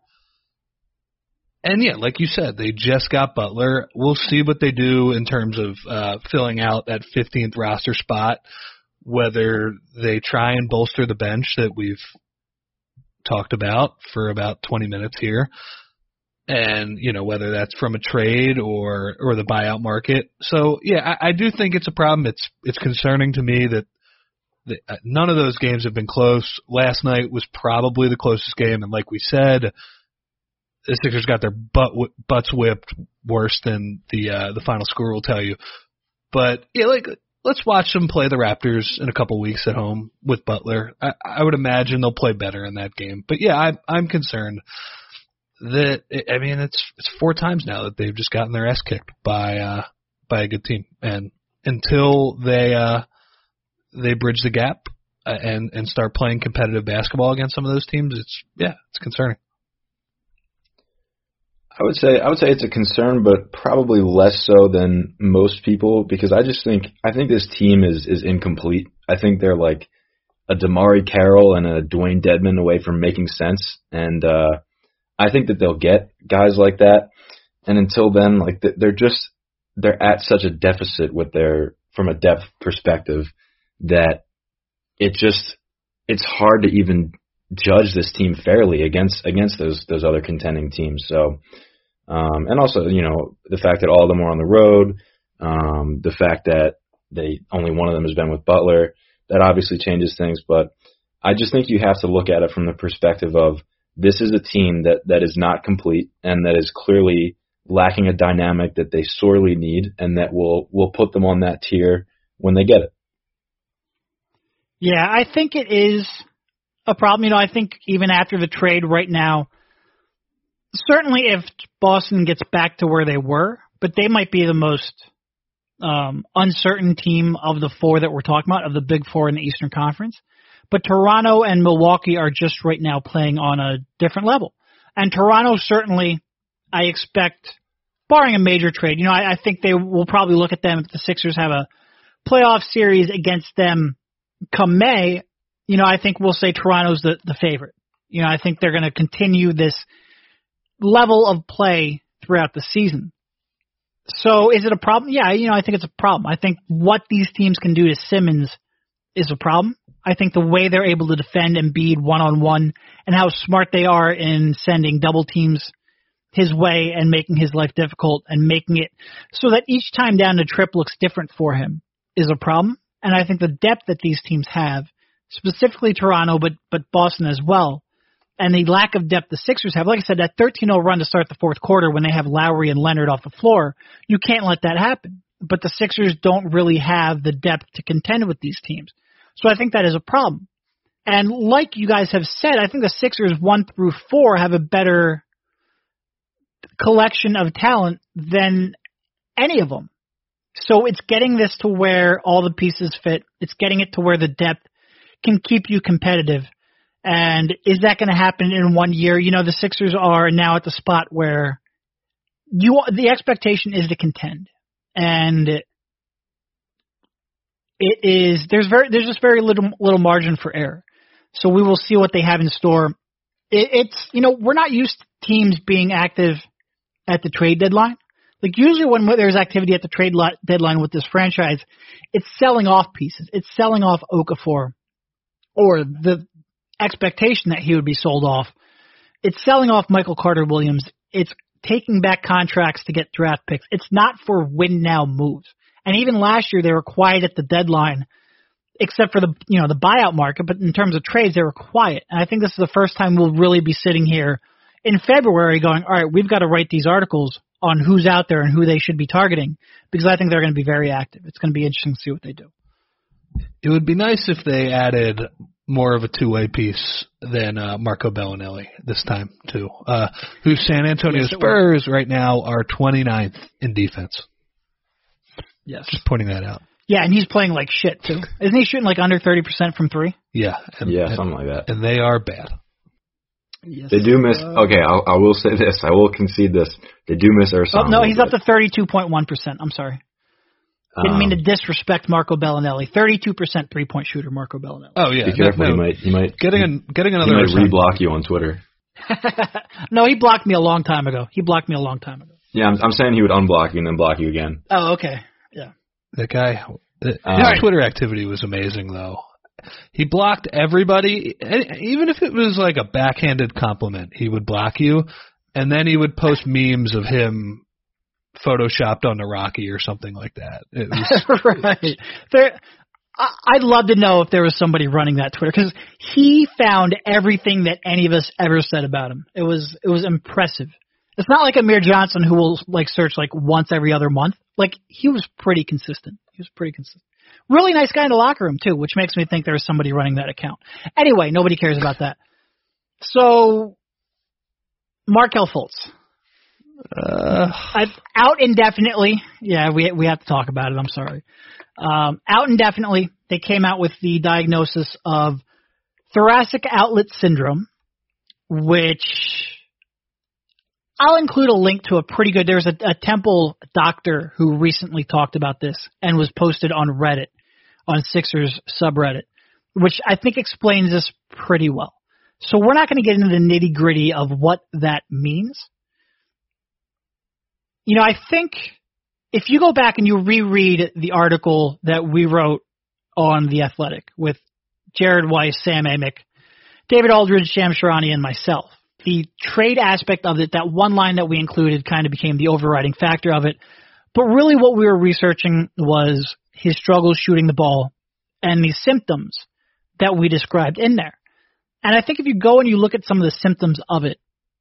Speaker 2: And yeah, like you said, they just got Butler. We'll see what they do in terms of uh, filling out that fifteenth roster spot, whether they try and bolster the bench that we've talked about for about twenty minutes here. And, you know, whether that's from a trade or, or the buyout market. So, yeah, I, I do think it's a problem. It's it's concerning to me that the, uh, none of those games have been close. Last night was probably the closest game, and like we said, the Sixers got their butt butts whipped worse than the uh, the final score will tell you. But, yeah, like, let's watch them play the Raptors in a couple weeks at home with Butler. I, I would imagine they'll play better in that game. But, yeah, I, I'm concerned. That I mean, it's it's four times now that they've just gotten their ass kicked by uh, by a good team, and until they uh, they bridge the gap uh, and and start playing competitive basketball against some of those teams, it's yeah, it's concerning.
Speaker 3: I would say I would say it's a concern, but probably less so than most people, because I just think I think this team is is incomplete. I think they're like a Damari Carroll and a Dwayne Dedmon away from making sense, and uh, I think that they'll get guys like that. And until then, like they're just they're at such a deficit with their from a depth perspective that it just it's hard to even judge this team fairly against against those those other contending teams. So, um, and also you know the fact that all of them are on the road, um, the fact that they only one of them has been with Butler, that obviously changes things. But I just think you have to look at it from the perspective of this is a team that, that is not complete and that is clearly lacking a dynamic that they sorely need, and that will will put them on that tier when they get it.
Speaker 1: Yeah, I think it is a problem. You know, I think even after the trade right now, certainly if Boston gets back to where they were, but they might be the most um, uncertain team of the four that we're talking about, of the big four in the Eastern Conference. But Toronto and Milwaukee are just right now playing on a different level. And Toronto certainly, I expect, barring a major trade, you know, I, I think they will probably look at them if the Sixers have a playoff series against them come May. You know, I think we'll say Toronto's the, the favorite. You know, I think they're going to continue this level of play throughout the season. So is it a problem? Yeah, you know, I think it's a problem. I think what these teams can do to Simmons is a problem. I think the way they're able to defend Embiid one-on-one and how smart they are in sending double teams his way and making his life difficult and making it so that each time down the trip looks different for him is a problem. And I think the depth that these teams have, specifically Toronto, but but Boston as well, and the lack of depth the Sixers have, like I said, that thirteen oh run to start the fourth quarter when they have Lowry and Leonard off the floor, you can't let that happen. But the Sixers don't really have the depth to contend with these teams. So I think that is a problem. And like you guys have said, I think the Sixers one through four have a better collection of talent than any of them. So it's getting this to where all the pieces fit. It's getting it to where the depth can keep you competitive. And is that going to happen in one year? You know, the Sixers are now at the spot where you the expectation is to contend. And it is there's very there's just very little little margin for error. So we will see what they have in store. It, it's you know we're not used to teams being active at the trade deadline. Like usually when there's activity at the trade lot deadline with this franchise, it's selling off pieces. It's selling off Okafor or the expectation that he would be sold off. It's selling off Michael Carter-Williams. It's taking back contracts to get draft picks. It's not for win-now moves. And even last year they were quiet at the deadline, except for the you know the buyout market. But in terms of trades, they were quiet. And I think this is the first time we'll really be sitting here in February going, all right, we've got to write these articles on who's out there and who they should be targeting, because I think they're going to be very active. It's going to be interesting to see what they do.
Speaker 2: It would be nice if they added more of a two-way piece than uh, Marco Bellinelli this time, too, uh, whose San Antonio
Speaker 1: yes,
Speaker 2: Spurs right now are twenty-ninth in defense.
Speaker 1: Yes.
Speaker 2: Just pointing that out.
Speaker 1: Yeah, and he's playing like shit, too. Isn't he shooting like under thirty percent from three?
Speaker 2: Yeah. And,
Speaker 3: yeah,
Speaker 2: and,
Speaker 3: something like that.
Speaker 2: And they are bad.
Speaker 1: Yes.
Speaker 3: They do miss. Okay, I'll, I will say this. I will concede this. They do miss Ersan.
Speaker 1: Oh, no, he's up to thirty-two point one percent. I'm sorry. Didn't
Speaker 3: um,
Speaker 1: mean to disrespect Marco Bellinelli. thirty-two percent three-point shooter, Marco Bellinelli.
Speaker 2: Oh, yeah.
Speaker 3: Be careful.
Speaker 2: No,
Speaker 3: he might. He might.
Speaker 2: Getting, a, getting another.
Speaker 3: He might reblock you on Twitter.
Speaker 1: No, he blocked me a long time ago. He blocked me a long time ago.
Speaker 3: Yeah, I'm, I'm saying he would unblock you and then block you again.
Speaker 1: Oh, okay. Yeah.
Speaker 2: That guy, his
Speaker 3: Um,
Speaker 2: Twitter activity was amazing, though. He blocked everybody, even if it was like a backhanded compliment, he would block you, and then he would post memes of him photoshopped on the Rocky or something like that. It was,
Speaker 1: right. There, I, I'd love to know if there was somebody running that Twitter, because he found everything that any of us ever said about him. It was it was impressive. It's not like Amir Johnson, who will like search like once every other month. Like, he was pretty consistent. He was pretty consistent. Really nice guy in the locker room, too, which makes me think there was somebody running that account. Anyway, nobody cares about that. So, Markelle Fultz.
Speaker 2: uh,
Speaker 1: I, out indefinitely. Yeah, we we have to talk about it. I'm sorry. Um, out indefinitely. They came out with the diagnosis of thoracic outlet syndrome, which I'll include a link to a pretty good. There's a, a Temple doctor who recently talked about this and was posted on Reddit, on Sixers subreddit, which I think explains this pretty well. So we're not going to get into the nitty gritty of what that means. You know, I think if you go back and you reread the article that we wrote on The Athletic with Jared Weiss, Sam Amick, David Aldridge, Sham Sharani, and myself, the trade aspect of it, that one line that we included kind of became the overriding factor of it. But really what we were researching was his struggles shooting the ball and the symptoms that we described in there. And I think if you go and you look at some of the symptoms of it,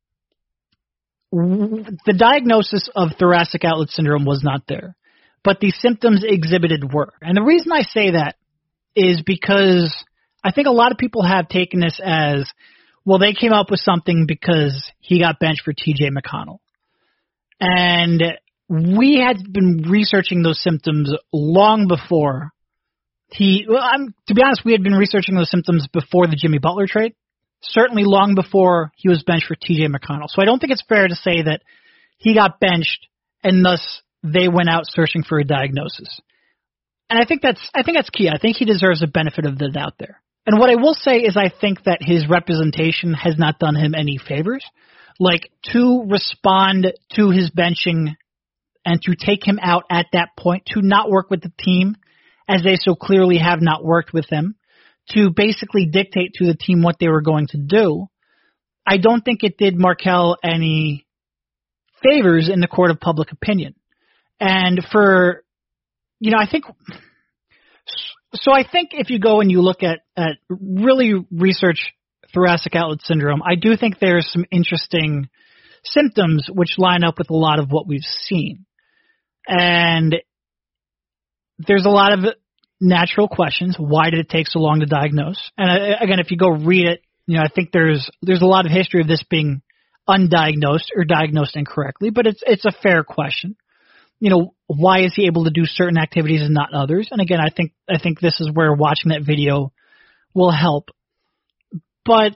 Speaker 1: the diagnosis of thoracic outlet syndrome was not there, but the symptoms exhibited were. And the reason I say that is because I think a lot of people have taken this as, well, they came up with something because he got benched for T J McConnell. And we had been researching those symptoms long before he, well, I'm, to be honest, we had been researching those symptoms before the Jimmy Butler trade, certainly long before he was benched for T J McConnell. So I don't think it's fair to say that he got benched and thus they went out searching for a diagnosis. And I think that's, I think that's key. I think he deserves a benefit of the doubt there. And what I will say is I think that his representation has not done him any favors. Like, to respond to his benching and to take him out at that point, to not work with the team, as they so clearly have not worked with him, to basically dictate to the team what they were going to do, I don't think it did Markelle any favors in the court of public opinion. And for, you know, I think... So I think if you go and you look at, at really research thoracic outlet syndrome, I do think there's some interesting symptoms which line up with a lot of what we've seen. And there's a lot of natural questions. Why did it take so long to diagnose? And again, if you go read it, you know, I think there's there's a lot of history of this being undiagnosed or diagnosed incorrectly, but it's it's a fair question. You know, why is he able to do certain activities and not others? And again, I think I think this is where watching that video will help. But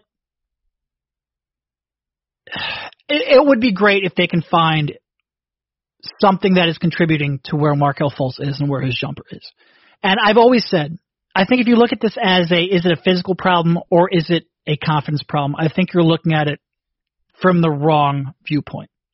Speaker 1: it, it would be great if they can find something that is contributing to where Markelle Fultz is and where his jumper is. And I've always said, I think if you look at this as a, is it a physical problem or is it a confidence problem? I think you're looking at it from the wrong viewpoint.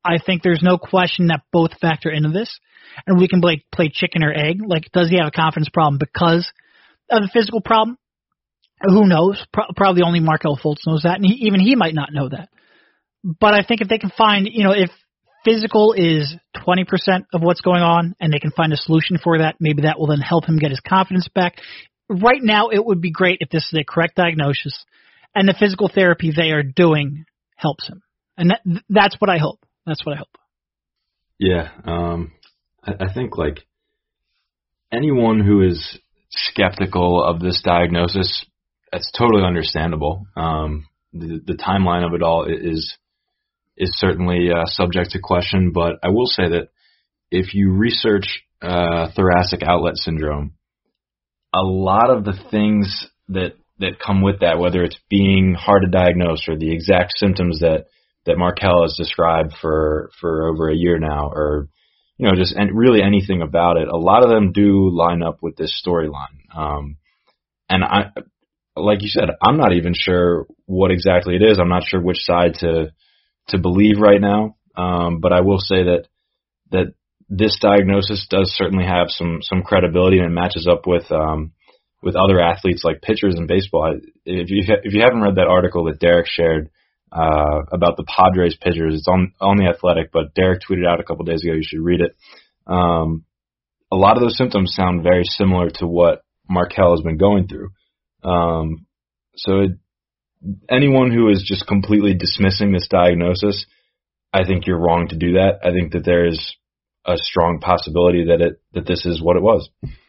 Speaker 1: I think there's no question that both factor into this, and we can play, play chicken or egg. Like, does he have a confidence problem because of the physical problem? Who knows? Pro- probably only Markelle Fultz knows that, and he, even he might not know that. But I think if they can find, you know, if physical is twenty percent of what's going on, and they can find a solution for that, maybe that will then help him get his confidence back. Right now, it would be great if this is a correct diagnosis, and the physical therapy they are doing helps him. And that, that's what I hope. That's what I hope.
Speaker 3: Yeah, um, I, I think, like, anyone who is skeptical of this diagnosis, that's totally understandable. Um, the, the timeline of it all is is certainly uh, subject to question, but I will say that if you research uh, thoracic outlet syndrome, a lot of the things that that come with that, whether it's being hard to diagnose or the exact symptoms that, that Markelle has described for, for over a year now, or, you know, just and really anything about it, a lot of them do line up with this storyline. Um, and I, like you said, I'm not even sure what exactly it is. I'm not sure which side to, to believe right now. Um, but I will say that, that this diagnosis does certainly have some, some credibility, and it matches up with, um, with other athletes like pitchers in baseball. If you, if you haven't read that article that Derek shared, uh, about the Padres pitchers, it's on, on The Athletic, but Derek tweeted out a couple days ago, you should read it. Um, a lot of those symptoms sound very similar to what Markelle has been going through. Um, so it, anyone who is just completely dismissing this diagnosis, I think you're wrong to do that. I think that there is a strong possibility that it, that this is what it was.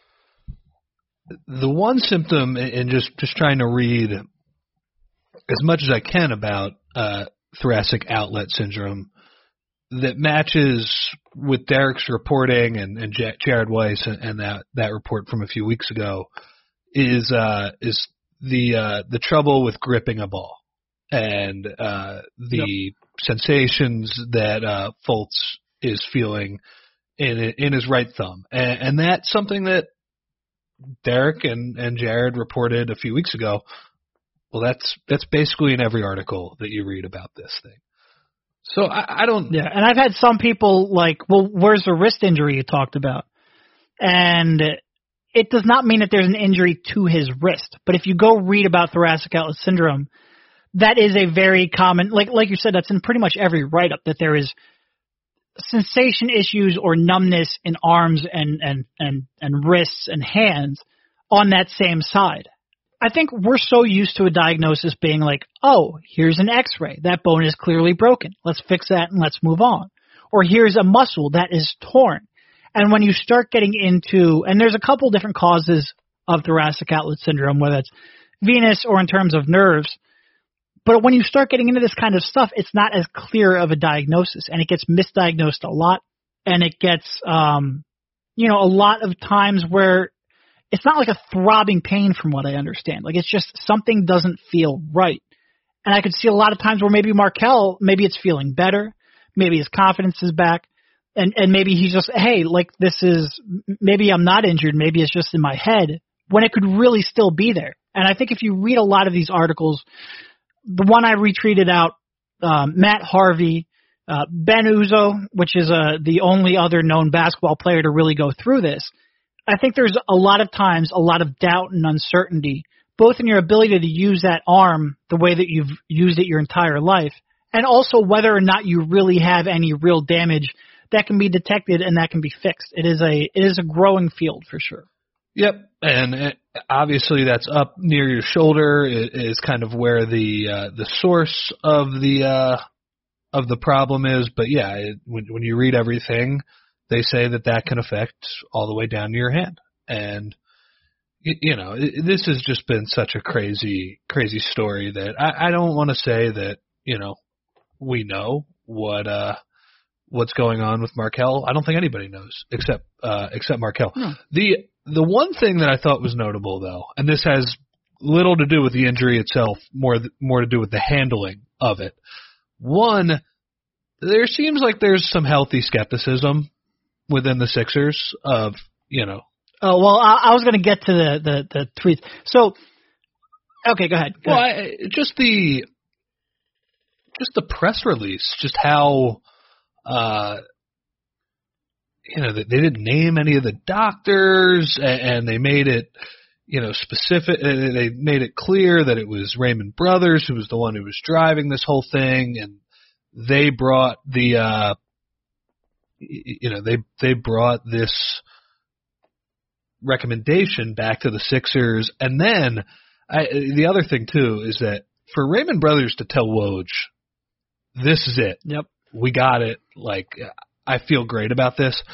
Speaker 2: The one symptom, and just, just trying to read as much as I can about uh, thoracic outlet syndrome that matches with Derek's reporting and, and J- Jared Weiss and, and that, that report from a few weeks ago is uh, is the uh, the trouble with gripping a ball and uh, the yep. sensations that uh, Fultz is feeling in in his right thumb, and, and that's something that Derek and, and Jared reported a few weeks ago. Well, that's that's basically in every article that you read about this thing. So I, I don't.
Speaker 1: Yeah, and I've had some people like, well, where's the wrist injury you talked about? And it does not mean that there's an injury to his wrist. But if you go read about thoracic outlet syndrome, that is a very common, like like you said, that's in pretty much every write-up, that there is sensation issues or numbness in arms and, and, and, and wrists and hands on that same side. I think we're so used to a diagnosis being like, oh, here's an x-ray. That bone is clearly broken. Let's fix that and let's move on. Or here's a muscle that is torn. And when you start getting into, and there's a couple different causes of thoracic outlet syndrome, whether it's venous or in terms of nerves, but when you start getting into this kind of stuff, it's not as clear of a diagnosis, and it gets misdiagnosed a lot, and it gets, um, you know, a lot of times where it's not like a throbbing pain from what I understand. Like, it's just something doesn't feel right. And I could see a lot of times where maybe Markelle, maybe it's feeling better, maybe his confidence is back, and, and maybe he's just, hey, like this is, maybe I'm not injured, maybe it's just in my head, when it could really still be there. And I think if you read a lot of these articles, the one I retweeted out, um, Matt Harvey, uh, Ben Uzo, which is uh, the only other known basketball player to really go through this, I think there's a lot of times a lot of doubt and uncertainty, both in your ability to use that arm the way that you've used it your entire life, and also whether or not you really have any real damage that can be detected and that can be fixed. It is a it is a growing field for sure.
Speaker 2: Yep, and it, obviously that's up near your shoulder is kind of where the uh, the source of the uh, of the problem is. But yeah, it, when when you read everything, they say that that can affect all the way down to your hand. And, you, you know, it, this has just been such a crazy, crazy story that I, I don't want to say that, you know, we know what uh, what's going on with Markelle. I don't think anybody knows except uh, except Markelle. No. The the one thing that I thought was notable, though, and this has little to do with the injury itself, more th- more to do with the handling of it. One, there seems like there's some healthy skepticism within the Sixers of, you know.
Speaker 1: Oh, well, I, I was going to get to the, the, the tweets. So, okay, go ahead. Go
Speaker 2: well,
Speaker 1: ahead.
Speaker 2: I, just the just the press release, just how Uh, you know, they, they didn't name any of the doctors, and, and they made it, you know, specific. They made it clear that it was Raymond Brothers who was the one who was driving this whole thing, and they brought the, uh, you know, they they brought this recommendation back to the Sixers, and then I, the other thing too is that for Raymond Brothers to tell Woj, this is it.
Speaker 1: Yep,
Speaker 2: we got it. Like, I feel great about this.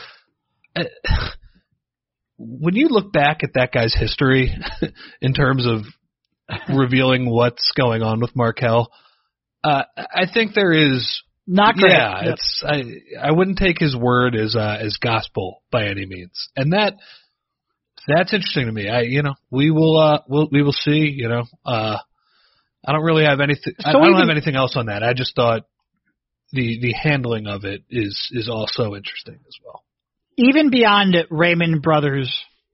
Speaker 2: When you look back at that guy's history in terms of revealing what's going on with Markelle, uh, I think there is
Speaker 1: not great.
Speaker 2: Yeah,
Speaker 1: yep.
Speaker 2: it's I I wouldn't take his word as uh, as gospel by any means, and that. That's interesting to me. I, you know, we will, uh, we'll, we will see. You know, uh, I don't really have anything. So I, I don't even, have anything else on that. I just thought the the handling of it is is also interesting as well.
Speaker 1: Even beyond Raymond Brothers'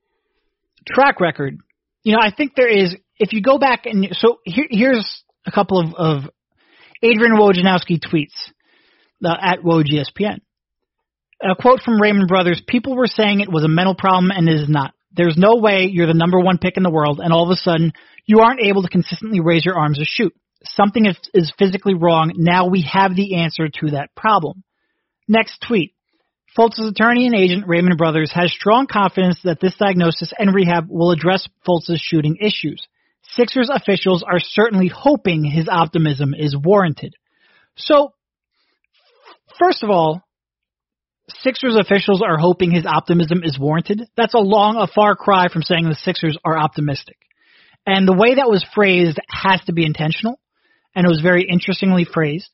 Speaker 1: track record, you know, I think there is. If you go back and so here, here's a couple of, of Adrian Wojnarowski tweets uh, at Woj E S P N. A quote from Raymond Brothers: "People were saying it was a mental problem, and it is not. There's no way you're the number one pick in the world, and all of a sudden you aren't able to consistently raise your arms to shoot. Something is, is physically wrong. Now we have the answer to that problem." Next tweet. Fultz's attorney and agent, Raymond Brothers, has strong confidence that this diagnosis and rehab will address Fultz's shooting issues. Sixers officials are certainly hoping his optimism is warranted. So, first of all, Sixers officials are hoping his optimism is warranted. That's a long, a far cry from saying the Sixers are optimistic. And the way that was phrased has to be intentional, and it was very interestingly phrased.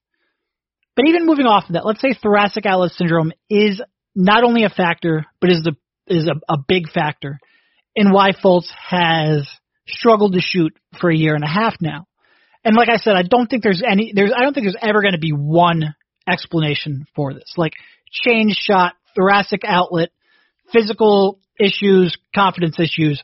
Speaker 1: But even moving off of that, let's say thoracic outlet syndrome is not only a factor, but is the is a, a big factor in why Fultz has struggled to shoot for a year and a half now. And like I said, I don't think there's any there's I don't think there's ever going to be one explanation for this. Like change shot, thoracic outlet, physical issues, confidence issues.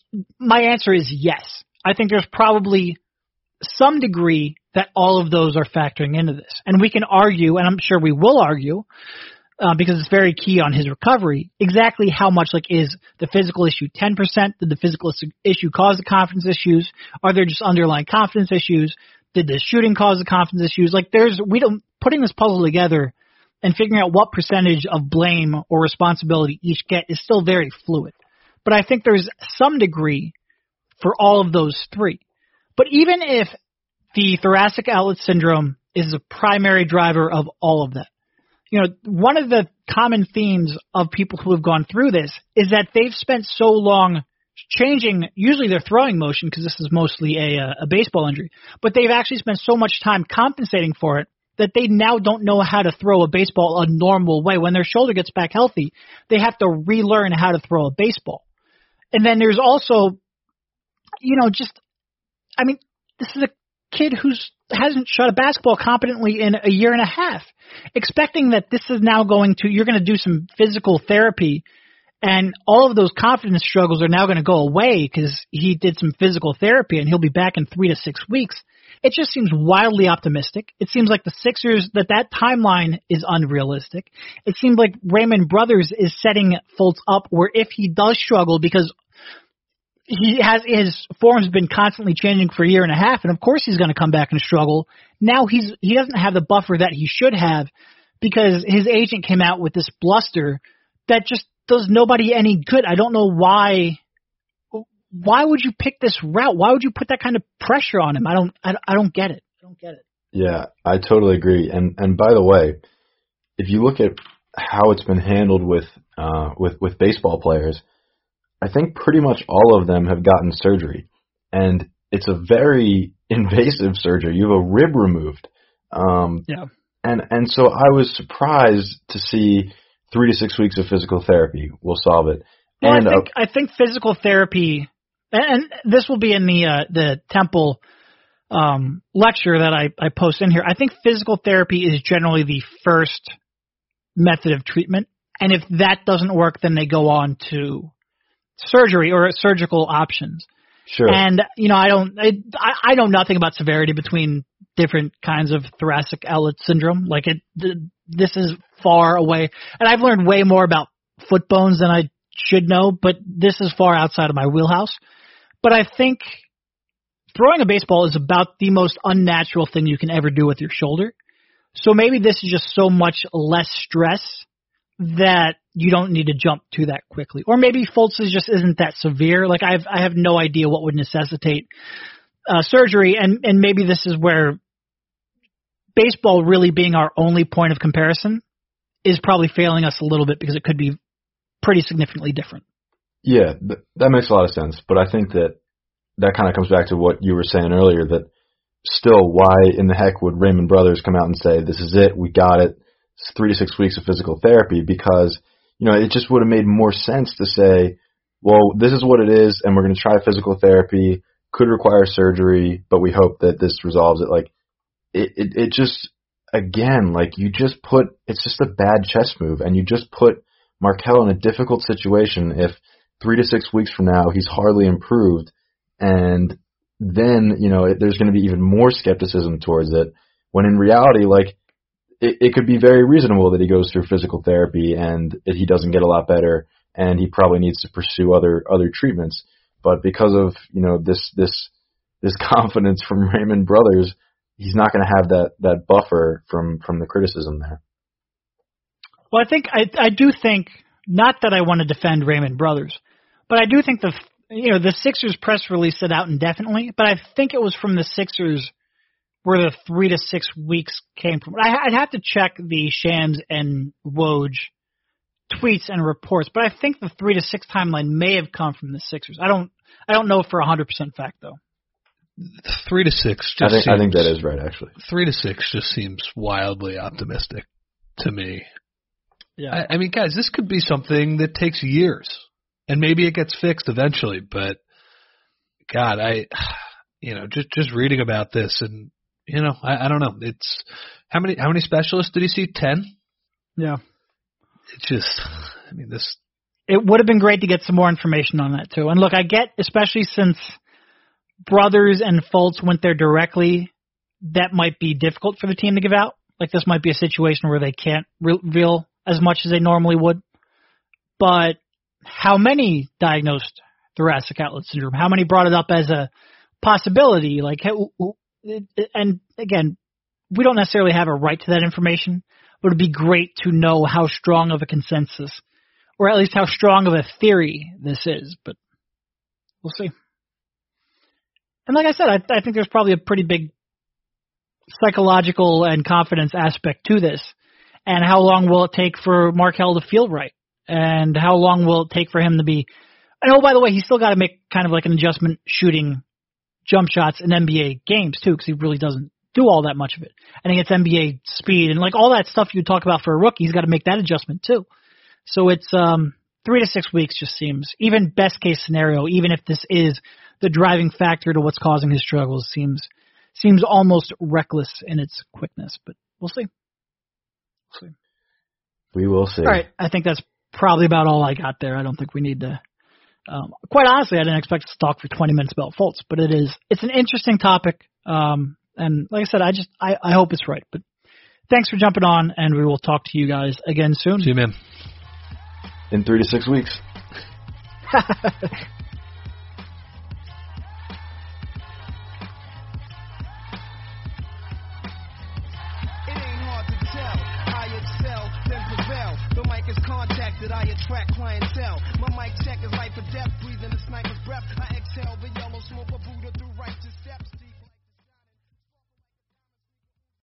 Speaker 1: My answer is yes. I think there's probably some degree that all of those are factoring into this. And we can argue, and I'm sure we will argue, uh, because it's very key on his recovery, exactly how much, like, is the physical issue ten percent? Did the physical issue cause the confidence issues? Are there just underlying confidence issues? Did the shooting cause the confidence issues? Like, there's, we don't, putting this puzzle together and figuring out what percentage of blame or responsibility each get is still very fluid. But I think there's some degree for all of those three. But even if the thoracic outlet syndrome is the primary driver of all of that, you know, one of the common themes of people who have gone through this is that they've spent so long changing, usually their throwing motion, because this is mostly a, a baseball injury, but they've actually spent so much time compensating for it that they now don't know how to throw a baseball a normal way. When their shoulder gets back healthy, they have to relearn how to throw a baseball. And then there's also, you know, just, I mean, this is a kid who's hasn't shot a basketball competently in a year and a half. Expecting that this is now going to, you're going to do some physical therapy and all of those confidence struggles are now going to go away because he did some physical therapy and he'll be back in three to six weeks. It just seems wildly optimistic. It seems like the Sixers, that that timeline is unrealistic. It seems like Raymond Brothers is setting Fultz up where if he does struggle, because he has his form's been constantly changing for a year and a half, and of course he's going to come back and struggle. Now he's he doesn't have the buffer that he should have because his agent came out with this bluster that just does nobody any good. I don't know why. Why would you pick this route? Why would you put that kind of pressure on him? I don't. I, I don't get it. I don't get it.
Speaker 3: Yeah, I totally agree. And and by the way, if you look at how it's been handled with uh, with with baseball players, I think pretty much all of them have gotten surgery, and it's a very invasive surgery. You have a rib removed. Um,
Speaker 1: yeah. And
Speaker 3: and so I was surprised to see three to six weeks of physical therapy will solve it.
Speaker 1: Well,
Speaker 3: and
Speaker 1: I think
Speaker 3: uh,
Speaker 1: I think physical therapy, and, and this will be in the uh, the Temple um, lecture that I, I post in here. I think physical therapy is generally the first method of treatment, and if that doesn't work, then they go on to surgery or surgical options.
Speaker 3: Sure.
Speaker 1: And you know, I don't, I, I know nothing about severity between different kinds of thoracic outlet syndrome. Like it, this is far away. And I've learned way more about foot bones than I should know, but this is far outside of my wheelhouse. But I think throwing a baseball is about the most unnatural thing you can ever do with your shoulder. So maybe this is just so much less stress that you don't need to jump to that quickly. Or maybe Fultz just isn't that severe. Like I've, I have no idea what would necessitate uh, surgery. And, and maybe this is where baseball really being our only point of comparison is probably failing us a little bit because it could be pretty significantly different.
Speaker 3: Yeah, th- that makes a lot of sense. But I think that that kind of comes back to what you were saying earlier, that still, why in the heck would Raymond Brothers come out and say, this is it, we got it, it's three to six weeks of physical therapy? Because, you know, it just would have made more sense to say, well, this is what it is, and we're going to try physical therapy, could require surgery, but we hope that this resolves it. Like, it, it, it just, again, like, you just put, it's just a bad chess move, and you just put Markelle in a difficult situation if three to six weeks from now he's hardly improved, and then, you know, it, there's going to be even more skepticism towards it, when in reality, like, it, it could be very reasonable that he goes through physical therapy and it, he doesn't get a lot better, and he probably needs to pursue other other treatments. But because of, you know, this this this confidence from Raymond Brothers, he's not going to have that, that buffer from, from the criticism there.
Speaker 1: Well, I think I I do think, not that I want to defend Raymond Brothers, but I do think the you know the Sixers press release said out indefinitely, but I think it was from the Sixers where the three to six weeks came from. I, I'd have to check the Shams and Woj tweets and reports, but I think the three to six timeline may have come from the Sixers. I don't I don't know for a hundred percent fact though.
Speaker 2: Three to six. Just
Speaker 3: I think
Speaker 2: seems,
Speaker 3: I think that is right, actually.
Speaker 2: Three to six just seems wildly optimistic to me.
Speaker 1: Yeah.
Speaker 2: I, I mean, guys, this could be something that takes years, and maybe it gets fixed eventually. But God, I, you know, just just reading about this, and you know, I, I don't know. It's how many how many specialists did he see? Ten.
Speaker 1: Yeah.
Speaker 2: It's just, I mean, this.
Speaker 1: It would have been great to get some more information on that too. And look, I get, especially since Brothers and Fultz went there directly, that might be difficult for the team to give out. Like this might be a situation where they can't reveal as much as they normally would. But how many diagnosed thoracic outlet syndrome? How many brought it up as a possibility? Like, and again, we don't necessarily have a right to that information, but it'd be great to know how strong of a consensus, or at least how strong of a theory this is. But we'll see. And like I said, I, I think there's probably a pretty big psychological and confidence aspect to this. And how long will it take for Markelle to feel right? And how long will it take for him to be... And oh, by the way, he's still got to make kind of like an adjustment shooting jump shots in N B A games, too, because he really doesn't do all that much of it. And he gets N B A speed and like all that stuff you talk about for a rookie, he's got to make that adjustment, too. So it's um, three to six weeks just seems, even best case scenario, even if this is the driving factor to what's causing his struggles, seems seems almost reckless in its quickness. But we'll see. We'll see.
Speaker 3: We will see.
Speaker 1: All right, I think that's probably about all I got there. I don't think we need to. Um, quite honestly, I didn't expect us to talk for twenty minutes about Fultz, but it is. It's an interesting topic, um, and like I said, I just I, I hope it's right. But thanks for jumping on, and we will talk to you guys again soon.
Speaker 2: See you, man.
Speaker 3: In three to six weeks.
Speaker 4: I attract clientele. My mic